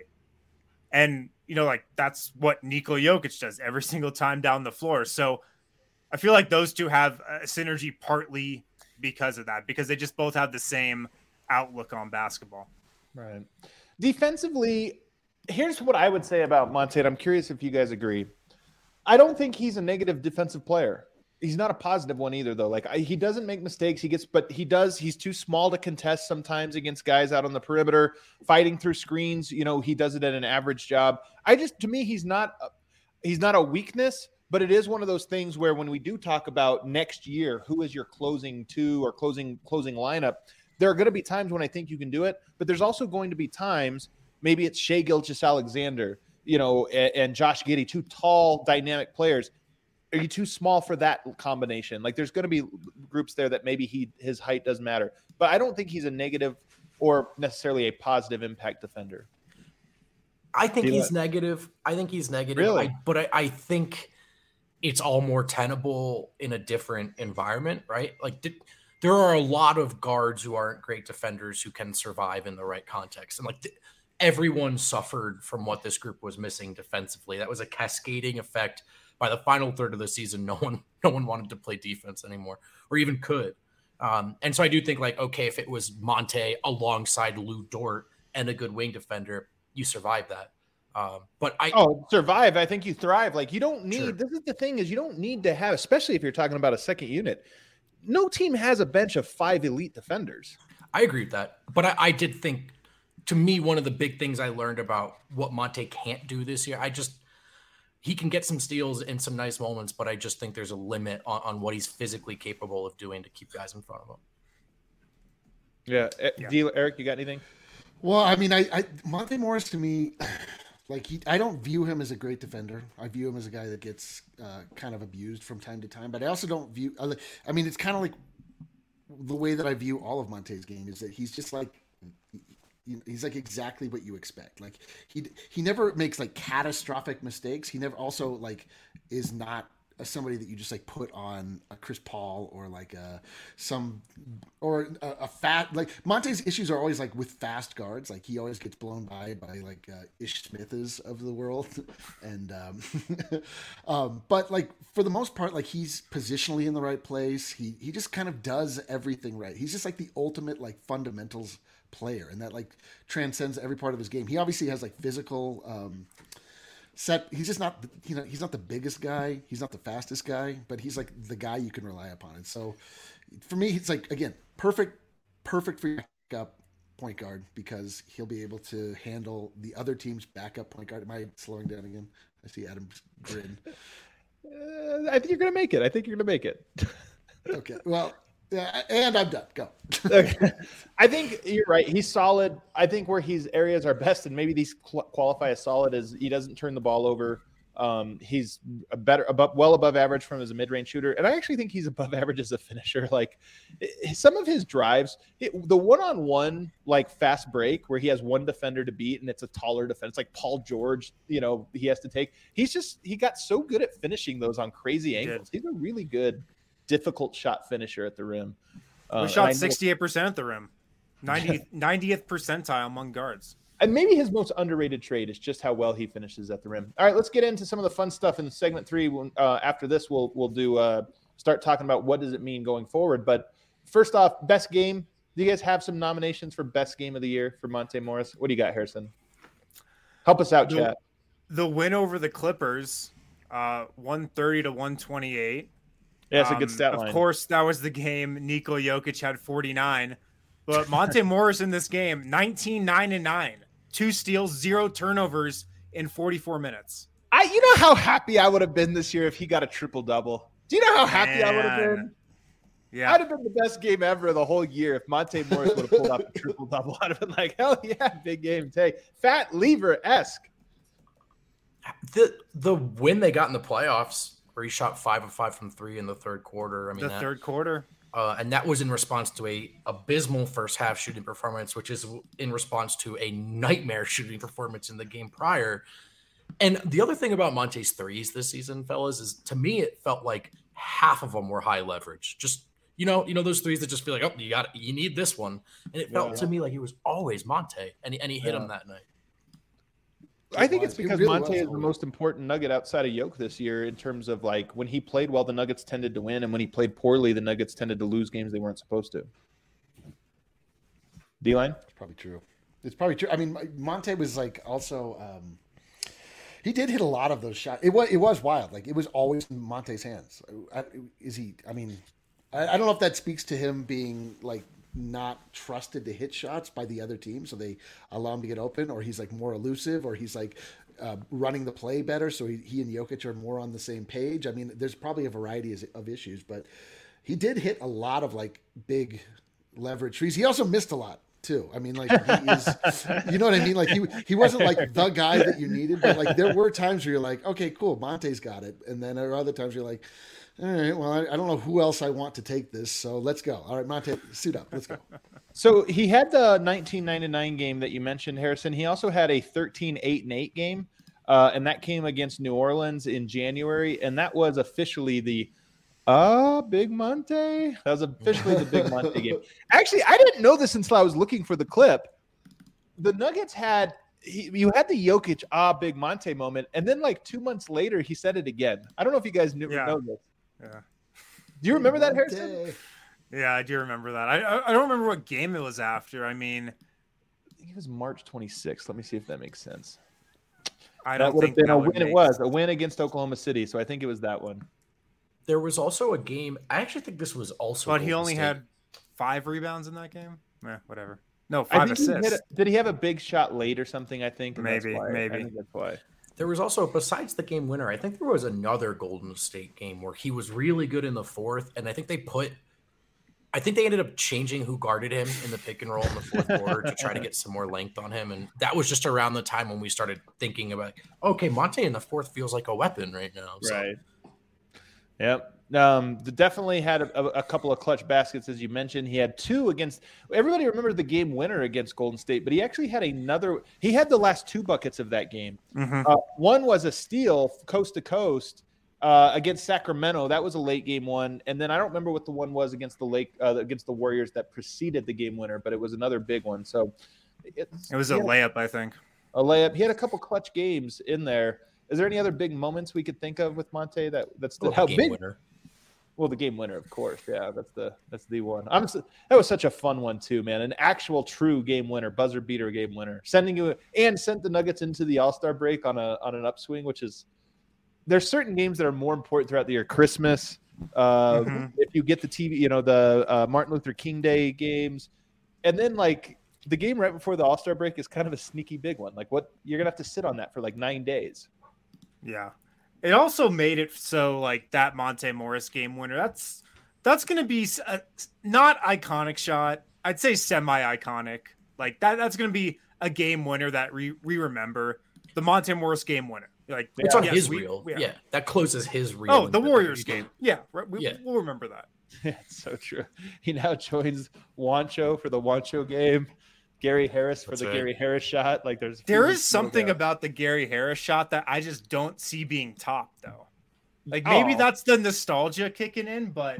And, you know, like that's what Nikola Jokic does every single time down the floor. So I feel like those two have a synergy partly because of that, because they just both have the same outlook on basketball. Right. Defensively, here's what I would say about Monte, and I'm curious if you guys agree. I don't think he's a negative defensive player. He's not a positive one either, though. Like I, he doesn't make mistakes. He gets, but he does. He's too small to contest sometimes against guys out on the perimeter, fighting through screens. You know, he does it at an average job. I just, to me, he's not. He's not a weakness, but it is one of those things where when we do talk about next year, who is your closing two or closing closing lineup, there are going to be times when I think you can do it, but there's also going to be times. Maybe it's Shai Gilgeous-Alexander, you know, and, and Josh Giddey, two tall, dynamic players. Are you too small for that combination? Like there's going to be groups there that maybe he his height doesn't matter. But I don't think he's a negative or necessarily a positive impact defender. I think Do you he's like- negative. I think he's negative. Really? I, but I, I think it's all more tenable in a different environment, right? Like th- there are a lot of guards who aren't great defenders who can survive in the right context. And like th- everyone suffered from what this group was missing defensively. That was a cascading effect. By the final third of the season, no one, no one wanted to play defense anymore, or even could. Um, and so I do think, like, okay, if it was Monte alongside Lou Dort and a good wing defender, you survive that. Um, but I, Oh, survive. I think you thrive. Like you don't need, Sure. this is the thing is you don't need to have, especially if you're talking about a second unit. No team has a bench of five elite defenders. I agree with that. But I, I did think, to me, one of the big things I learned about what Monte can't do this year, I just, he can get some steals in some nice moments, but I just think there's a limit on, on what he's physically capable of doing to keep guys in front of him. Yeah. Yeah. D- Eric, you got anything? Well, I mean, I, I Monte Morris to me, like he, I don't view him as a great defender. I view him as a guy that gets uh, kind of abused from time to time. But I also don't view. I mean, it's kind of like the way that I view all of Monte's game is that he's just like. He's like exactly what you expect. Like he he never makes like catastrophic mistakes. He never also like is not a, somebody that you just like put on a Chris Paul or like a some or a, a fat like Monte's issues are always like with fast guards. Like he always gets blown by by like uh, Ish Smiths of the world, and um, um, but like for the most part, like he's positionally in the right place. He he just kind of does everything right. He's just like the ultimate like fundamentals player, and that like transcends every part of his game. He obviously has like physical um set. He's just not, you know, he's not the biggest guy, he's not the fastest guy, but he's like the guy you can rely upon. And so for me, it's like, again, perfect perfect for your backup point guard, because he'll be able to handle the other team's backup point guard. Am I slowing down again? I see Adam's grin. Uh, I think you're going to make it. I think you're going to make it. Okay, well, yeah, and I'm done. Go. Okay. I think you're right. He's solid. I think where his areas are best, and maybe these qualify as solid, is he doesn't turn the ball over Um, he's a better, above, well above average from as a mid-range shooter, and I actually think he's above average as a finisher. Like some of his drives, it, the one-on-one like fast break where he has one defender to beat, and it's a taller defense, like Paul George. You know, he has to take. He's just he got so good at finishing those on crazy angles. He's a really good, difficult shot finisher at the rim. We Uh, shot sixty-eight percent at the rim, ninety, ninetieth percentile among guards. And maybe his most underrated trait is just how well he finishes at the rim. All right, let's get into some of the fun stuff in segment three. Uh, after this, we'll we'll do uh, start talking about what does it mean going forward. But first off, best game. Do you guys have some nominations for best game of the year for Monte Morris? What do you got, Harrison? Help us out, the, chat. The win over the Clippers, uh, one thirty to one twenty-eight. Yeah, it's a good stat um, line. Of course, that was the game Nikola Jokic had forty-nine. But Monte Morris in this game, nineteen, nine, and nine. Two steals, zero turnovers in forty-four minutes. I, you know how happy I would have been this year if he got a triple double. Do you know how happy Man. I would have been? Yeah, I'd have been the best game ever the whole year if Monte Morris would have pulled off a triple double. I'd have been like, hell yeah, big game take. Fat Lever esque. The the win they got in the playoffs, where he shot five of five from three in the third quarter. I mean, the that, third quarter. Uh, and that was in response to a abysmal first half shooting performance, which is in response to a nightmare shooting performance in the game prior. And the other thing about Monte's threes this season, fellas, is to me it felt like half of them were high leverage. Just you know, you know those threes that just feel like, oh, you got you need this one, and it felt Yeah. to me like it was always Monte, and he, and he hit Yeah. him that night. I think was. it's He because really Monte was. is the most important nugget outside of Yoke this year in terms of like when he played well, the Nuggets tended to win, and when he played poorly, the Nuggets tended to lose games they weren't supposed to. D-line? It's probably true. It's probably true. I mean, Monte was like also. Um, he did hit a lot of those shots. It was it was wild. Like it was always in Monte's hands. I, is he? I mean, I, I don't know if that speaks to him being like not trusted to hit shots by the other team, so they allow him to get open, or he's like more elusive, or he's like uh, running the play better, so he, he and Jokic are more on the same page. I mean, there's probably a variety of, of issues, but he did hit a lot of like big leverage trees. He also missed a lot too. I mean, like he is, you know what I mean? Like he he wasn't like the guy that you needed, but like there were times where you're like, okay, cool, Monte's got it, and then there are other times you're like, all right, well, I, I don't know who else I want to take this, so let's go. All right, Monte, suit up, let's go. So he had the nineteen ninety-nine game that you mentioned, Harrison. He also had a thirteen eight and eight game, uh, and that came against New Orleans in January, and that was officially the uh Big Monte. That was officially the Big Monte game. Actually, I didn't know this until I was looking for the clip. The Nuggets had he, you had the Jokic ah Big Monte moment, and then like two months later, he said it again. I don't know if you guys knew Yeah. know this. Yeah. Do you remember that, Harrison? Monte. Yeah, I do remember that. I I I don't remember what game it was after. I mean, I think it was March twenty-sixth. Let me see if that makes sense. I That don't would have think been that a would win. It make- was a win against Oklahoma City, so I think it was that one. There was also a game. I actually think this was also. But he Golden only State. had five rebounds in that game. Eh, whatever. No, I five think he hit assists. a- did he have a big shot late or something? I think and that's Maybe, why. maybe. I think that's why. There was also, besides the game winner, I think there was another Golden State game where he was really good in the fourth, and I think they put, I think they ended up changing who guarded him in the pick and roll in the fourth quarter to try to get some more length on him, and that was just around the time when we started thinking about, okay, Monte in the fourth feels like a weapon right now. So. Right. Yep. Um, the- definitely had a, a, a couple of clutch baskets, as you mentioned. He had two against. Everybody remembers the game winner against Golden State, but he actually had another. He had the last two buckets of that game. Mhm. Uh, one was a steal, coast to coast, uh, against Sacramento. That was a late game one, and then I don't remember what the one was against the Lake uh, against the Warriors that preceded the game winner, but it was another big one. So it's, It was he a had layup, I think. a layup. He had a couple clutch games in there. Is there any other big moments we could think of with Monte that that's Well, the how game big? winner. Well, the game winner, of course. Yeah, that's the that's the one. I'm s- that was such a fun one too, man. An actual true game winner, buzzer beater game winner, sending you and sent the Nuggets into the All-Star break on a on an upswing, which is there's certain games that are more important throughout the year. Christmas, uh, Mhm. if you get the T V, you know the uh, Martin Luther King Day games, and then like the game right before the All-Star break is kind of a sneaky big one. Like what you're gonna have to sit on that for like nine days. Yeah. It also made it so like that Monte Morris game winner. That's that's going to be a, not iconic shot. I'd say semi-iconic. Like that that's going to be a game winner that we we remember. The Monte Morris game winner. Like It's on yes, his we- reel. we- Yeah, that closes his reel. Oh, in the Warriors game. Yeah, right, we, Yeah. we'll remember that. Yeah, it's so true. He now joins Wancho for the Wancho game. Gary Harris for That's the right. Gary Harris shot. Like there's There few is something little about the Gary Harris shot that I just don't see being topped, though. Like maybe Oh. that's the nostalgia kicking in, but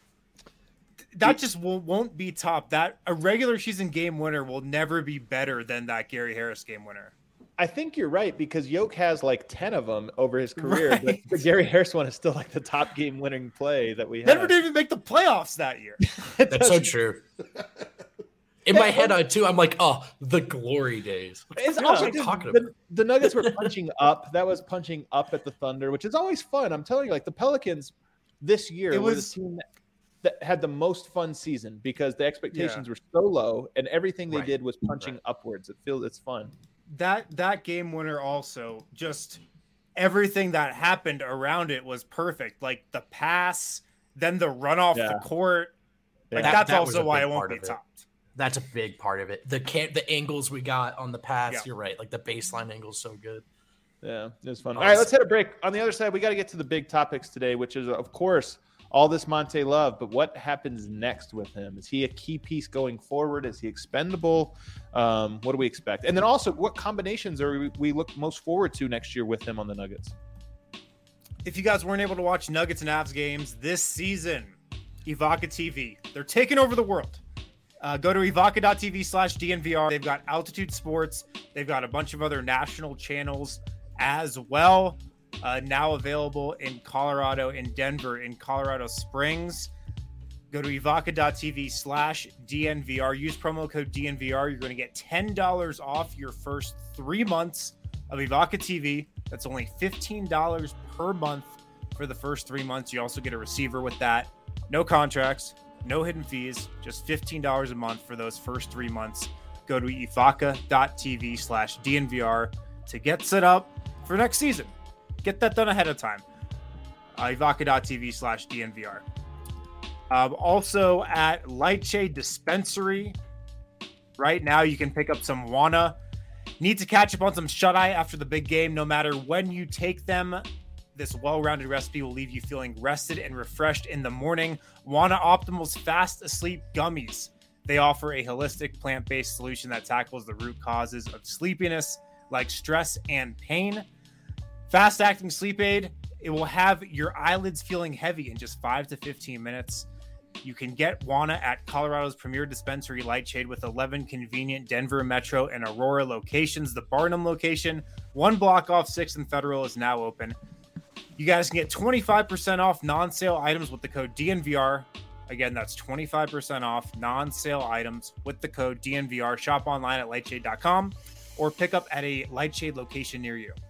that just will, won't be topped. That a regular season game winner will never be better than that Gary Harris game winner. I think you're right because Yoke has like ten of them over his career, but Right. the Gary Harris one is still like the top game winning play that we have. Never didn't even make the playoffs that year. That's so true. In my head, I too, I'm like, oh, the glory days. What the It's fuck also am I just- talking the, about? the Nuggets were punching up. That was punching up at the Thunder, which is always fun. I'm telling you, like the Pelicans this year It were was- the team that, that had the most fun season because the expectations were so low and everything they Right. did was punching Right. upwards. It feels it's fun. That that game winner also just everything that happened around it was perfect. Like the pass, then the run off Yeah. the court. Like Yeah. that's That was also a why big it won't part be of it. topped. That's a big part of it. The can the angles we got on the pass. Yeah. You're right. Like the baseline angle's so good. Yeah, it was fun. Oh, All right, it's- let's hit a break. On the other side, we got to get to the big topics today, which is, of course, all this Monte love. But what happens next with him? Is he a key piece going forward? Is he expendable? Um, what do we expect? And then also, what combinations are we, we look most forward to next year with him on the Nuggets? If you guys weren't able to watch Nuggets and Avs games this season, Evoca T V, they're taking over the world. Uh, go to evoca.tv slash DNVR. They've got Altitude Sports. They've got a bunch of other national channels as well. Uh, now available in Colorado, in Denver, in Colorado Springs. Go to evoca.tv slash DNVR. Use promo code D N V R. You're going to get ten dollars off your first three months of Evoca T V. That's only fifteen dollars per month for the first three months. You also get a receiver with that. No contracts, no hidden fees, just fifteen dollars a month for those first three months. Go to evoca.tv slash DNVR to get set up for next season. Get that done ahead of time. Uh, evoca.tv slash DNVR. Um, also at Lightshade Dispensary. Right now, you can pick up some Wana. Need to catch up on some shut-eye after the big game. No matter when you take them, this well-rounded recipe will leave you feeling rested and refreshed in the morning. Wana Optimal's Fast Asleep Gummies. They offer a holistic plant-based solution that tackles the root causes of sleepiness, like stress and pain. Fast-acting sleep aid. It will have your eyelids feeling heavy in just five to fifteen minutes. You can get Wana at Colorado's premier dispensary, Lightshade, with eleven convenient Denver Metro and Aurora locations. The Barnum location, one block off sixth and Federal, is now open. You guys can get twenty-five percent off non-sale items with the code D N V R. Again, that's twenty-five percent off non-sale items with the code D N V R. Shop online at lightshade dot com or pick up at a Lightshade location near you.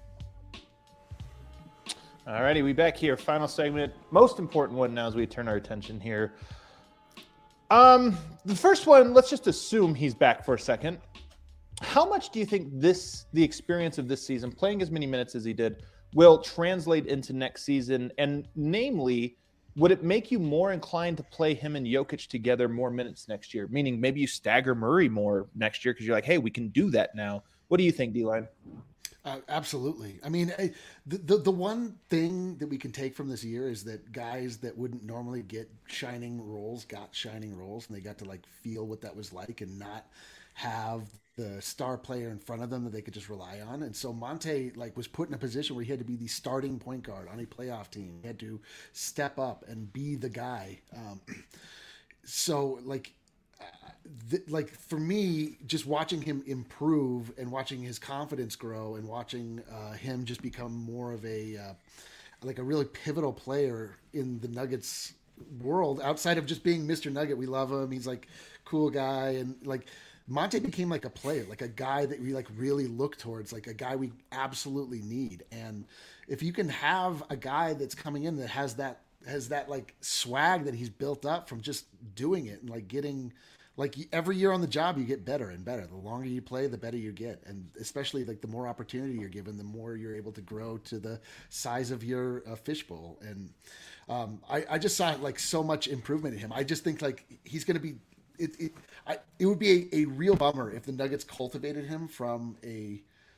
All righty, we back here. Final segment, most important one now as we turn our attention here. Um, the first one, let's just assume he's back for a second. How much do you think this, the experience of this season, playing as many minutes as he did, will translate into next season? And namely, would it make you more inclined to play him and Jokic together more minutes next year? Meaning maybe you stagger Murray more next year because you're like, hey, we can do that now. What do you think, D-Line? Uh, absolutely. I mean, I, the, the the one thing that we can take from this year is that guys that wouldn't normally get shining roles got shining roles, and they got to like feel what that was like and not have the star player in front of them that they could just rely on. And so Monte like was put in a position where he had to be the starting point guard on a playoff team. He had to step up and be the guy. Um, so like. Th- like for me, just watching him improve and watching his confidence grow and watching uh, him just become more of a uh, like a really pivotal player in the Nuggets world outside of just being Mister Nugget. We love him. He's like cool guy. And like Monte became like a player, like a guy that we like really look towards, like a guy we absolutely need. And if you can have a guy that's coming in that has that, has that like swag that he's built up from just doing it and like getting, like every year on the job, you get better and better. The longer you play, the better you get. And especially like the more opportunity you're given, the more you're able to grow to the size of your uh, fishbowl. And um, I, I just saw like so much improvement in him. I just think like he's going to be, it, it, I, it would be a, a real bummer if the Nuggets cultivated him from a,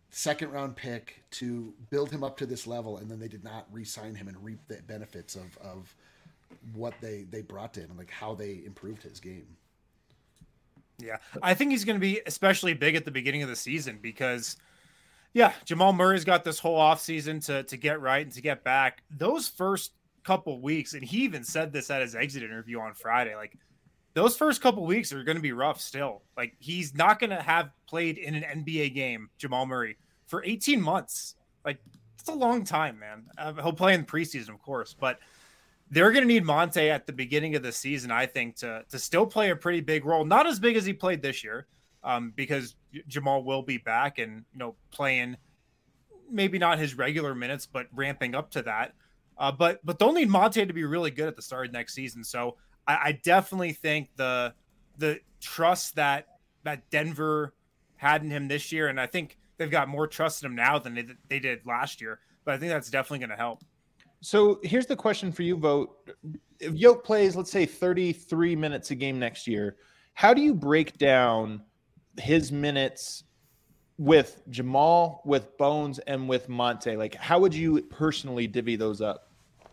second round pick to build him up to this level, and then they did not re-sign him and reap the benefits of of what they they brought to him and like how they improved his game. Yeah, I think he's going to be especially big at the beginning of the season because, yeah, Jamal Murray's got this whole offseason to to get right and to get back. Those first couple weeks, and he even said this at his exit interview on Friday, like those first couple weeks are going to be rough still. Like he's not going to have played in an N B A game, Jamal Murray, for eighteen months. Like it's a long time, man. Uh, he'll play in the preseason, of course, but they're going to need Monte at the beginning of the season, I think, to to still play a pretty big role. Not as big as he played this year, um, because Jamal will be back and, you know, playing maybe not his regular minutes, but ramping up to that. Uh, but but they'll need Monte to be really good at the start of next season. So I, I definitely think the the trust that that Denver had in him this year, and I think they've got more trust in him now than they, they did last year. But I think that's definitely going to help. So here's the question for you, Vogt. If Yoke plays, let's say, thirty-three minutes a game next year, how do you break down his minutes with Jamal, with Bones, and with Monte? Like, how would you personally divvy those up?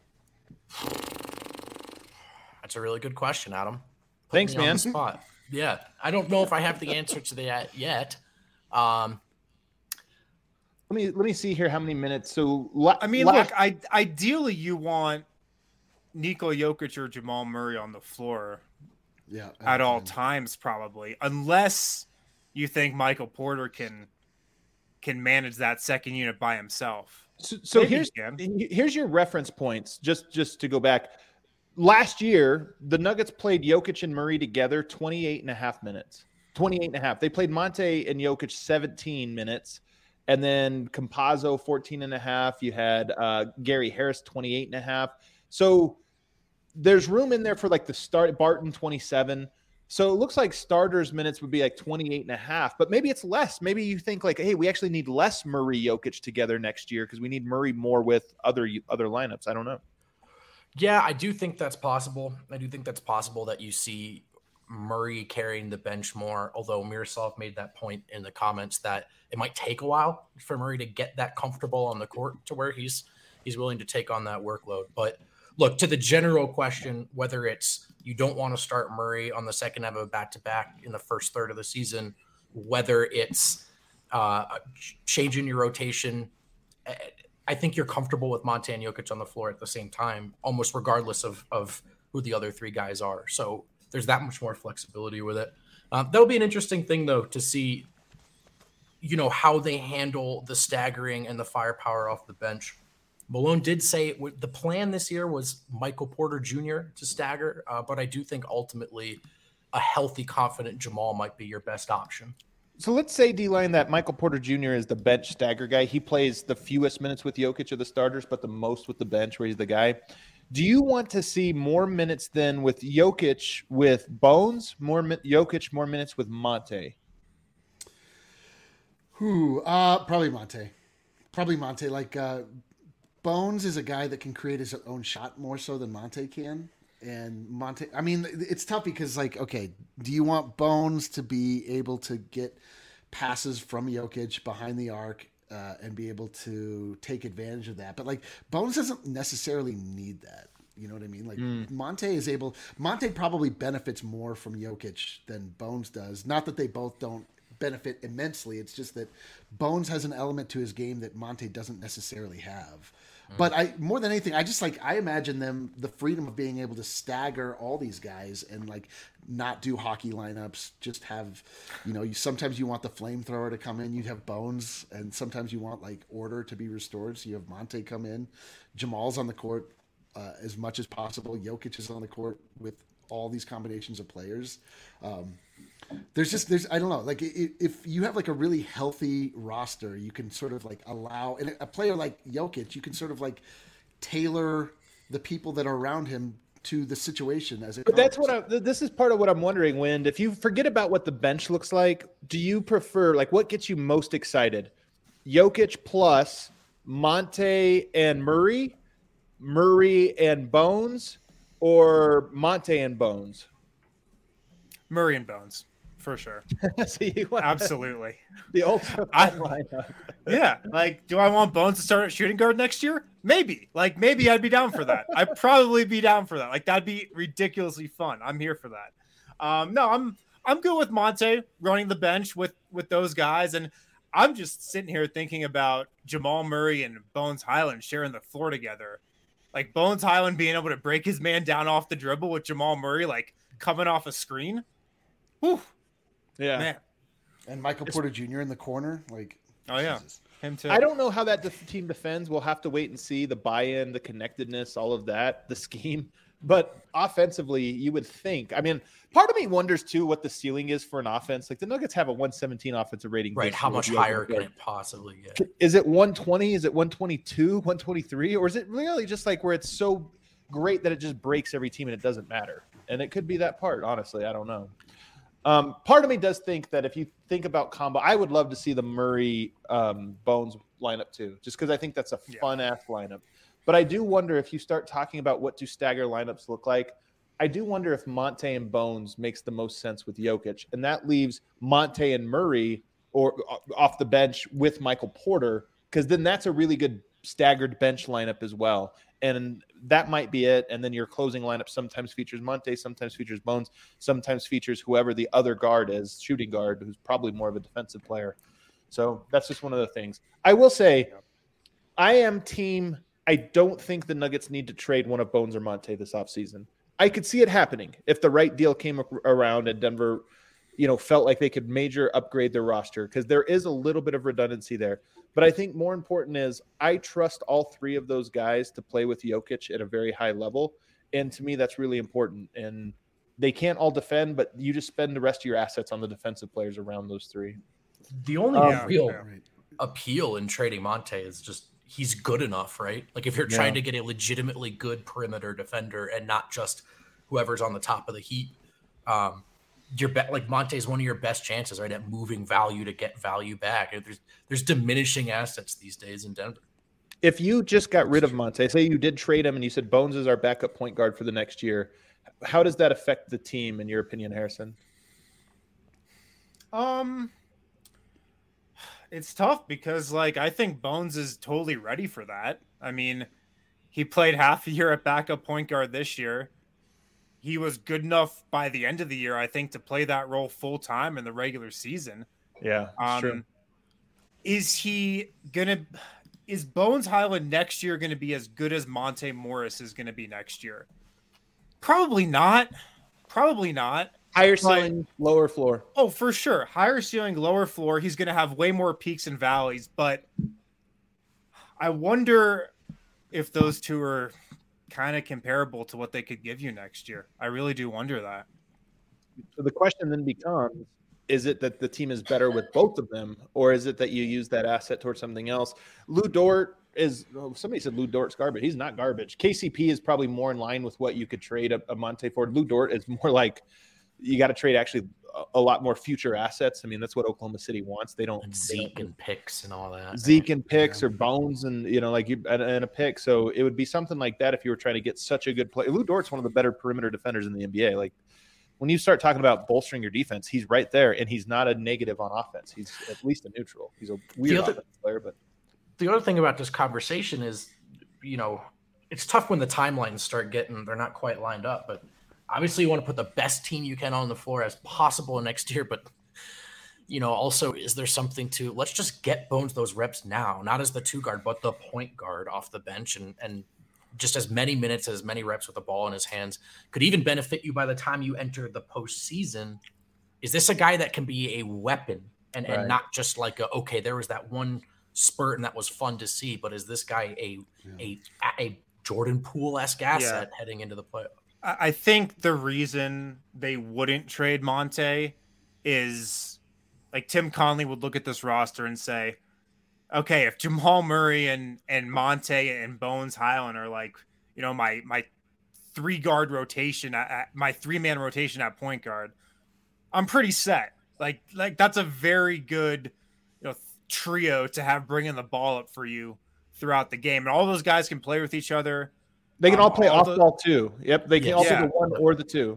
That's a really good question, Adam. Put Thanks, me on man. the spot. Yeah, I don't know if I have the answer to that yet. Um, Let me let me see here how many minutes. So la- I mean, la- look, I ideally you want Nikola Jokic or Jamal Murray on the floor Yeah, at all and- times, probably, unless you think Michael Porter can can manage that second unit by himself. So, so Maybe here's he can. here's your reference points. Just just to go back, last year the Nuggets played Jokic and Murray together twenty-eight and a half minutes. twenty-eight and a half. They played Monte and Jokic seventeen minutes. And then Campazzo, fourteen and a half. You had uh, Gary Harris, twenty-eight and a half. So there's room in there for like the start, Barton, twenty-seven. So it looks like starters minutes would be like twenty-eight and a half, but maybe it's less. Maybe you think like, hey, we actually need less Murray Jokic together next year because we need Murray more with other other lineups. I don't know. Yeah, I do think that's possible. I do think that's possible that you see Murray carrying the bench more, although Miroslav made that point in the comments that it might take a while for Murray to get that comfortable on the court to where he's he's willing to take on that workload. But look, to the general question, whether it's you don't want to start Murray on the second half of a back-to-back in the first third of the season, whether it's uh, changing your rotation, I think you're comfortable with Monte and Jokic on the floor at the same time, almost regardless of, of who the other three guys are. So there's that much more flexibility with it. Um, that'll be an interesting thing, though, to see, you know, how they handle the staggering and the firepower off the bench. Malone did say it w- the plan this year was Michael Porter Junior to stagger, uh, but I do think ultimately a healthy, confident Jamal might be your best option. So let's say, D-Line, that Michael Porter Junior is the bench stagger guy. He plays the fewest minutes with Jokic of the starters, but the most with the bench where he's the guy. Do you want to see more minutes than with Jokic with Bones, more mi- Jokic, more minutes with Monte? Who? Uh, probably Monte. Probably Monte. Like uh, Bones is a guy that can create his own shot more so than Monte can. And Monte, I mean, it's tough because, like, okay, do you want Bones to be able to get passes from Jokic behind the arc uh, and be able to take advantage of that? But, like, Bones doesn't necessarily need that. You know what I mean? Like, mm. Monte is able, Monte probably benefits more from Jokic than Bones does. Not that they both don't benefit immensely. It's just that Bones has an element to his game that Monte doesn't necessarily have. But I, more than anything, I just like, I imagine them the freedom of being able to stagger all these guys and like not do hockey lineups, just have, you know, you, sometimes you want the flamethrower to come in, you'd have Bones, and sometimes you want like order to be restored. So you have Monte come in, Jamal's on the court uh, as much as possible. Jokic is on the court with all these combinations of players. Um, There's just, there's, I don't know, like if you have like a really healthy roster, you can sort of like allow, and a player like Jokic, you can sort of like tailor the people that are around him to the situation as it But comes. that's what I, this is part of what I'm wondering, Wind. If you forget about what the bench looks like, do you prefer, like what gets you most excited? Jokic plus Monte and Murray, Murray and Bones, or Monte and Bones? Murray and Bones. for sure. So you want Absolutely. the ultra I- fun lineup. Yeah, like, do I want Bones to start at shooting guard next year? Maybe. Like, maybe I'd be down for that. I'd probably be down for that. Like, that'd be ridiculously fun. I'm here for that. Um, no, I'm I'm good with Monte running the bench with with those guys, and I'm just sitting here thinking about Jamal Murray and Bones Highland sharing the floor together. Like, Bones Highland being able to break his man down off the dribble with Jamal Murray, like, coming off a screen. Whew, Yeah. man. And Michael Porter Junior in the corner, like, Oh, yeah. Jesus. Him too. I don't know how that def- team defends. We'll have to wait and see the buy-in, the connectedness, all of that, the scheme. But offensively, you would think. I mean, part of me wonders too what the ceiling is for an offense. Like the Nuggets have a one seventeen offensive rating. Right. this How year much with higher Jokic. can it possibly get? Is it one twenty? Is it one twenty-two, one twenty-three? Or is it really just like where it's so great that it just breaks every team and it doesn't matter? And it could be that part, honestly. I don't know. Um, part of me does think that if you think about combo, I would love to see the Murray um, Bones lineup too, just because I think that's a Yeah. fun ass lineup. But I do wonder if you start talking about what do stagger lineups look like. I do wonder if Monte and Bones makes the most sense with Jokic, and that leaves Monte and Murray or uh, off the bench with Michael Porter, because then that's a really good staggered bench lineup as well. And that might be it. And then your closing lineup sometimes features Monte, sometimes features Bones, sometimes features whoever the other guard is, shooting guard, who's probably more of a defensive player. So that's just one of the things. I will say, I am team. I don't think the Nuggets need to trade one of Bones or Monte this offseason. I could see it happening if the right deal came around and Denver, you know, felt like they could major upgrade their roster, because there is a little bit of redundancy there. But I think more important is I trust all three of those guys to play with Jokic at a very high level. And to me, that's really important. And they can't all defend, but you just spend the rest of your assets on the defensive players around those three. The only Um, real yeah. Right. appeal in trading Monte is just he's good enough, right? Like if you're Yeah. trying to get a legitimately good perimeter defender and not just whoever's on the top of the heap, um, your bet like Monte is one of your best chances, right, at moving value to get value back. There's there's diminishing assets these days in Denver. If you just got rid of Monte, say you did trade him and you said Bones is our backup point guard for the next year, how does that affect the team, in your opinion, Harrison? Um, it's tough because, like, I think Bones is totally ready for that. I mean, he played half a year at backup point guard this year. He was good enough by the end of the year, I think, to play that role full time in the regular season. Yeah, Um, is he gonna? Is Bones Highland next year going to be as good as Monte Morris is going to be next year? Probably not. Probably not. Higher ceiling, lower floor. Oh, for sure. Higher ceiling, lower floor. He's going to have way more peaks and valleys, but I wonder if those two are kind of comparable to what they could give you next year. I really do wonder that. So the question then becomes, is it that the team is better with both of them, or is it that you use that asset towards something else? Lou Dort is, oh, somebody said Lou Dort's garbage. He's not garbage. K C P is probably more in line with what you could trade a, a Monte for. Lou Dort is more like you got to trade actually a, a lot more future assets. I mean, that's what Oklahoma City wants. They don't And they Zeke don't- and picks and all that. Zeke and picks or Bones and, you know, like you and, and a pick. So it would be something like that if you were trying to get such a good player. Lou Dort's one of the better perimeter defenders in the N B A. Like when you start talking about bolstering your defense, he's right there, and he's not a negative on offense. He's at least a neutral. He's a weird other- offensive player, but The other thing about this conversation is, you know, it's tough when the timelines start getting, they're not quite lined up, but obviously you want to put the best team you can on the floor as possible next year. But, you know, also, is there something to, let's just get Bones those reps now, not as the two guard, but the point guard off the bench, and, and just as many minutes, as many reps with the ball in his hands could even benefit you by the time you enter the postseason. Is this a guy that can be a weapon and, Right. and not just like a, okay, there was that one spurt and that was fun to see, but is this guy a a a Jordan Poole-esque asset heading into the play? I I think the reason they wouldn't trade Monte is like Tim Conley would look at this roster and say, okay, if Jamal Murray and, and Monte and Bones Highland are like, you know, my, my three guard rotation, at, at my three man rotation at point guard, I'm pretty set. Like, like that's a very good, you know, trio to have bringing the ball up for you throughout the game. And all those guys can play with each other. they can Um, all play all off the- ball too. Yep, they can Yeah. also Yeah. the one or the two.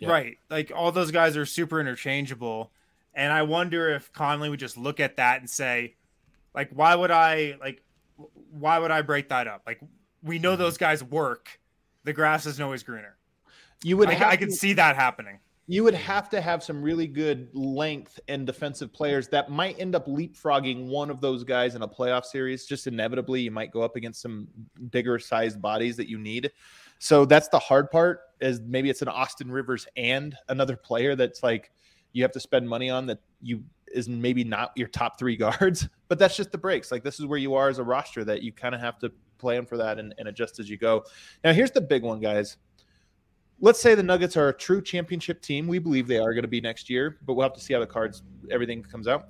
Yeah. Right. Like all those guys are super interchangeable. And I wonder if Conley would just look at that and say, like, why would I like why would I break that up? Like we know those guys work. The grass isn't always greener. You would I, have I can to- see that happening. You would have to have some really good length and defensive players that might end up leapfrogging one of those guys in a playoff series. Just inevitably, you might go up against some bigger sized bodies that you need. So that's the hard part, is maybe it's an Austin Rivers and another player that's like you have to spend money on that you is maybe not your top three guards, but that's just the breaks. Like this is where you are as a roster, that you kind of have to plan for that and, and adjust as you go. Now, here's the big one, guys. Let's say the Nuggets are a true championship team. We believe they are going to be next year, but we'll have to see how the cards, everything comes out.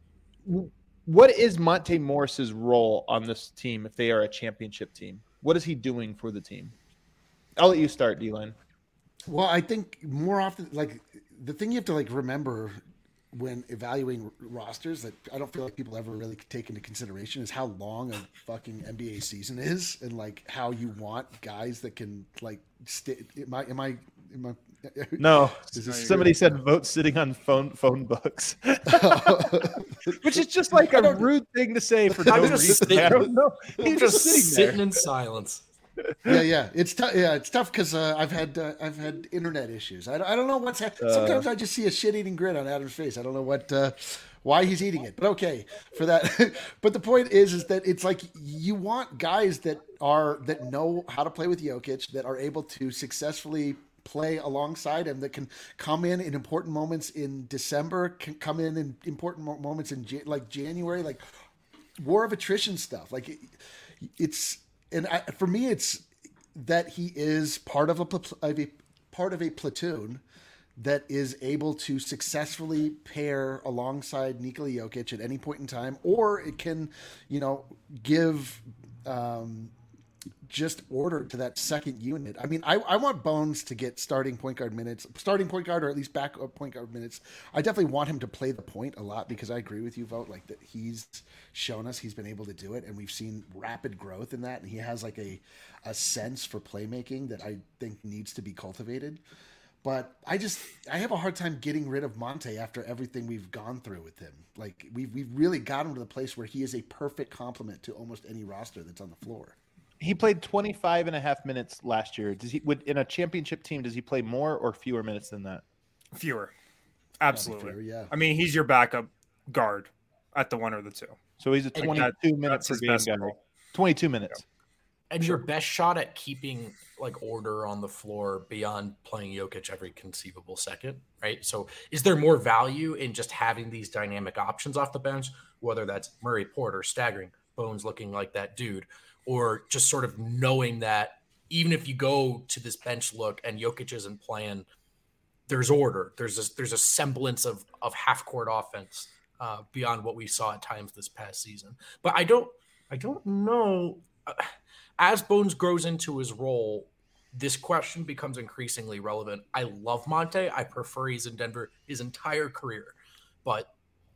What is Monte Morris's role on this team if they are a championship team? What is he doing for the team? I'll let you start, D-Line. Well, I think more often, like the thing you have to like remember when evaluating rosters that I don't feel like people ever really take into consideration is how long a fucking N B A season is, and like how you want guys that can like stay. Am I? Am I? Am I? No, Is this somebody true? said vote sitting on phone phone books, which is just like a rude thing to say for no I'm just reason. sitting- I don't know. I'm He's just just sitting sitting there. in silence. yeah, yeah, it's tough. Yeah, it's tough because uh, I've had uh, I've had internet issues. I don't, I don't know what's. Ha- Sometimes I just see a shit-eating grin on Adam's face. I don't know what uh, why he's eating it, but okay for that. But the point is, is that it's like you want guys that are that know how to play with Jokic, that are able to successfully play alongside him, that can come in in important moments in December, can come in in important mo- moments in Jan- like January, like war of attrition stuff. Like it, it's. And I, for me, it's that he is part of a, pl- of a part of a platoon that is able to successfully pair alongside Nikola Jokic at any point in time, or it can, you know, give um, just order to that second unit. I mean, I, I want Bones to get starting point guard minutes, starting point guard, or at least backup point guard minutes. I definitely want him to play the point a lot because I agree with you, Vote, like that he's shown us he's been able to do it, and we've seen rapid growth in that, and he has like a, a sense for playmaking that I think needs to be cultivated. But I just I have a hard time getting rid of Monte after everything we've gone through with him. Like we've we've really got him to the place where he is a perfect complement to almost any roster that's on the floor. He played twenty-five and a half minutes last year. Does he would in a championship team, does he play more or fewer minutes than that? Fewer. Absolutely. Fair, yeah. I mean, he's your backup guard at the one or the two. So he's a And twenty-two minute that's per his game best guy. role. twenty-two minutes. And your best shot at keeping like order on the floor beyond playing Jokic every conceivable second, right? So is there more value in just having these dynamic options off the bench, whether that's Murray Porter staggering, Bones looking like that dude, or just sort of knowing that even if you go to this bench look and Jokic isn't playing, there's order. There's a, there's a semblance of, of half-court offense uh, beyond what we saw at times this past season. But I don't I don't know uh, – as Bones grows into his role, this question becomes increasingly relevant. I love Monte. I prefer he's in Denver his entire career. But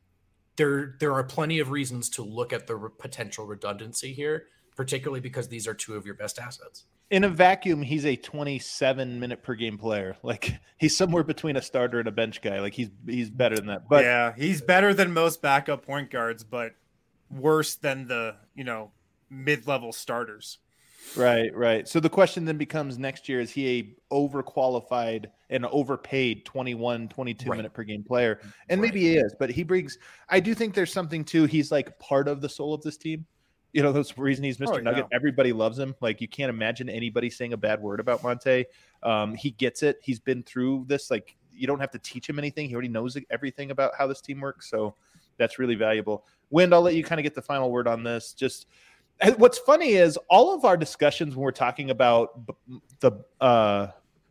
there, there are plenty of reasons to look at the re- potential redundancy here, particularly because these are two of your best assets. In a vacuum, he's a twenty-seven minute per game player. Like he's somewhere between a starter and a bench guy. Like he's he's better than that. But yeah, he's better than most backup point guards, but worse than the, you know, mid-level starters. Right, right. So the question then becomes next year, is he a overqualified and overpaid twenty-one, twenty-two Right. minute per game player? And Right. maybe he is, but he brings, I do think there's something too. He's like part of the soul of this team. You know, that's the reason he's Mister Oh, yeah. Nugget. Everybody loves him. Like you can't imagine anybody saying a bad word about Monte. Um, he gets it. He's been through this. Like you don't have to teach him anything. He already knows everything about how this team works. So that's really valuable. Wind, I'll let you kind of get the final word on this. Just, what's funny is all of our discussions when we're talking about the uh,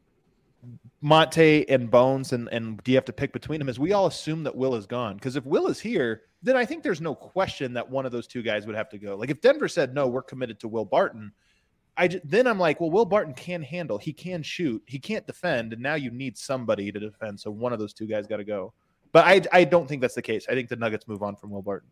Monte and Bones and, and do you have to pick between them is we all assume that Will is gone. Because if Will is here, then I think there's no question that one of those two guys would have to go. Like if Denver said, no, we're committed to Will Barton, I j- then I'm like, well, Will Barton can handle. He can shoot. He can't defend. And now you need somebody to defend. So one of those two guys got to go. But I, I don't think that's the case. I think the Nuggets move on from Will Barton.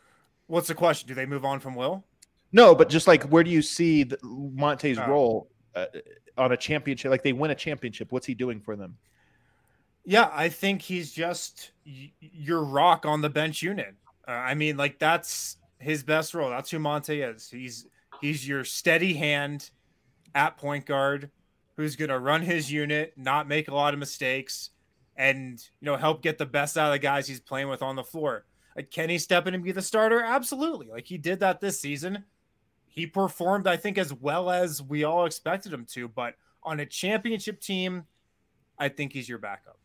What's the question? Do they move on from Will? No, but just like where do you see the, Monte's Oh. role uh, on a championship, like they win a championship? What's he doing for them? Yeah, I think he's just y- your rock on the bench unit. Uh, I mean, like that's his best role. That's who Monte is. He's he's your steady hand at point guard who's going to run his unit, not make a lot of mistakes, and you know help get the best out of the guys he's playing with on the floor. Like, can he step in and be the starter? Absolutely. Like he did that this season. He performed, I think, as well as we all expected him to. But on a championship team, I think he's your backup.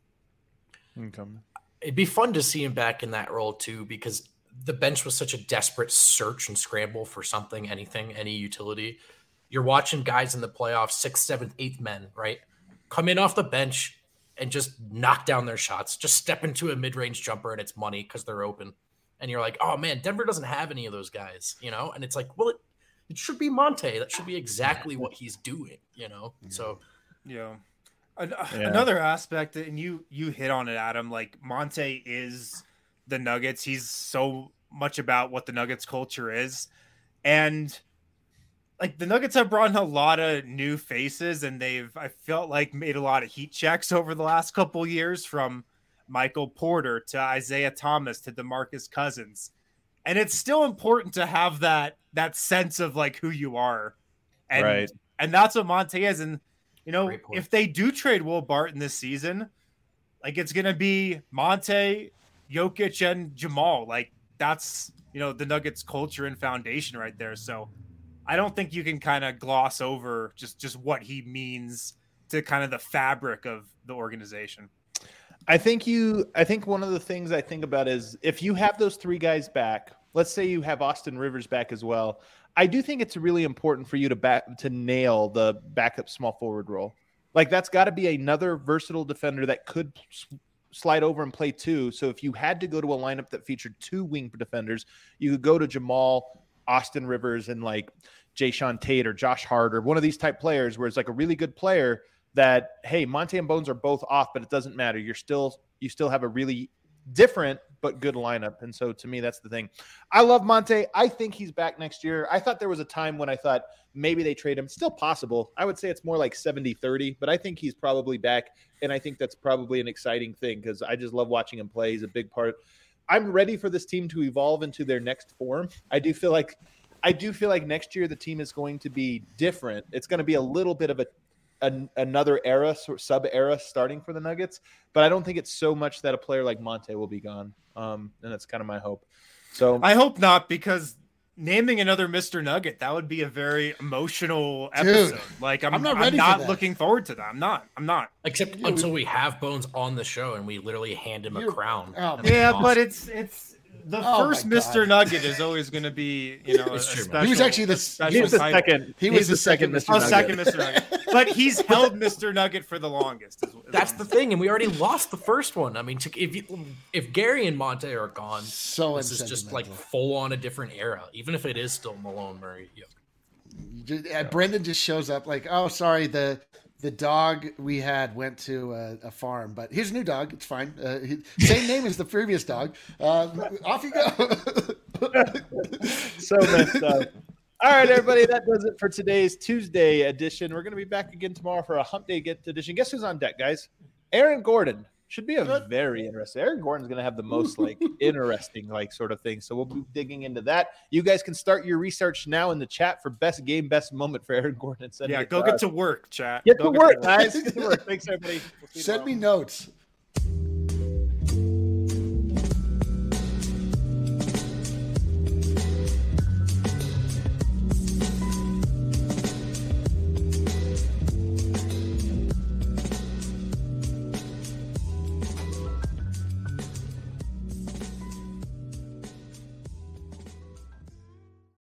Okay. It'd be fun to see him back in that role too, because the bench was such a desperate search and scramble for something, anything, any utility. You're watching guys in the playoffs, sixth, seventh, eighth men, right? Come in off the bench and just knock down their shots. Just step into a mid-range jumper and it's money because they're open. And you're like, oh man, Denver doesn't have any of those guys, you know? And it's like, well, it, it should be Monte. That should be exactly what he's doing, you know? So, Yeah. An- Yeah. Another aspect, and you you hit on it, Adam, like Monte is the Nuggets. He's so much about what the Nuggets culture is. And like the Nuggets have brought in a lot of new faces, and they've, I felt like, made a lot of heat checks over the last couple of years, from Michael Porter to Isaiah Thomas to DeMarcus Cousins. And it's still important to have that that sense of like who you are. And, Right. and that's what Monte is. And, you know, Great point. if they do trade Will Barton this season, like it's going to be Monte, Jokic, and Jamal. Like that's, you know, the Nuggets culture and foundation right there. So I don't think you can kind of gloss over just, just what he means to kind of the fabric of the organization. I think you, I think one of the things I think about is if you have those three guys back, let's say you have Austin Rivers back as well. I do think it's really important for you to back to nail the backup small forward role. Like that's got to be another versatile defender that could s- slide over and play two. So if you had to go to a lineup that featured two wing defenders, you could go to Jamal, Austin Rivers, and like Jayshawn Tate or Josh Hart or one of these type players where it's like a really good player that, hey, Monte and Bones are both off, but it doesn't matter. You're still, you still have a really different but good lineup. And so to me, that's the thing. I love Monte. I think he's back next year. I thought there was a time when I thought maybe they trade him. Still possible. I would say it's more like seventy thirty, but I think he's probably back. And I think that's probably an exciting thing because I just love watching him play. He's a big part. I'm ready for this team to evolve into their next form. I do feel like I do feel like next year the team is going to be different. It's going to be a little bit of a An, another era, sort of sub era starting for the Nuggets, but I don't think it's so much that a player like Monte will be gone. Um, and that's kind of my hope. So I hope not, because naming another Mister Nugget, that would be a very emotional episode. Dude, like I'm, I'm not I'm ready for not that. looking forward to that. I'm not. I'm not. except Yeah, until we- we have Bones on the show and we literally hand him a You're- crown. oh, And Yeah, that's but awesome. it's it's the Oh first my God. Mister Nugget is always going to be, you know, a It's true, man. special, He was actually the- a special he was the title. second. He he's was the second Mister Oh, Nugget. second Mister Nugget. But he's held Mister Nugget for the longest. is- is That's what the I'm thing, and we already lost the first one. I mean, to, if you, if Gary and Monte are gone, So this is just like unsentimental. full on a different era. Even if it is still Malone Murray. Yeah. Just- uh, Brendan just shows up like, oh, sorry, the the dog we had went to a, a farm, but here's a new dog. It's fine. Uh, he, same name as the previous dog. Uh, off you go. So messed up. All right, everybody, that does it for today's Tuesday edition. We're going to be back again tomorrow for a Hump Day Get edition. Guess who's on deck, guys? Aaron Gordon. Should be a very interesting. Aaron Gordon's going to have the most like interesting like sort of thing. So we'll be digging into that. You guys can start your research now in the chat for best game, best moment for Aaron Gordon. Send Yeah, it go to get us. to work, chat. Get Go to work, work. guys. Get to work. Thanks, everybody. We'll see you Send tomorrow. me notes.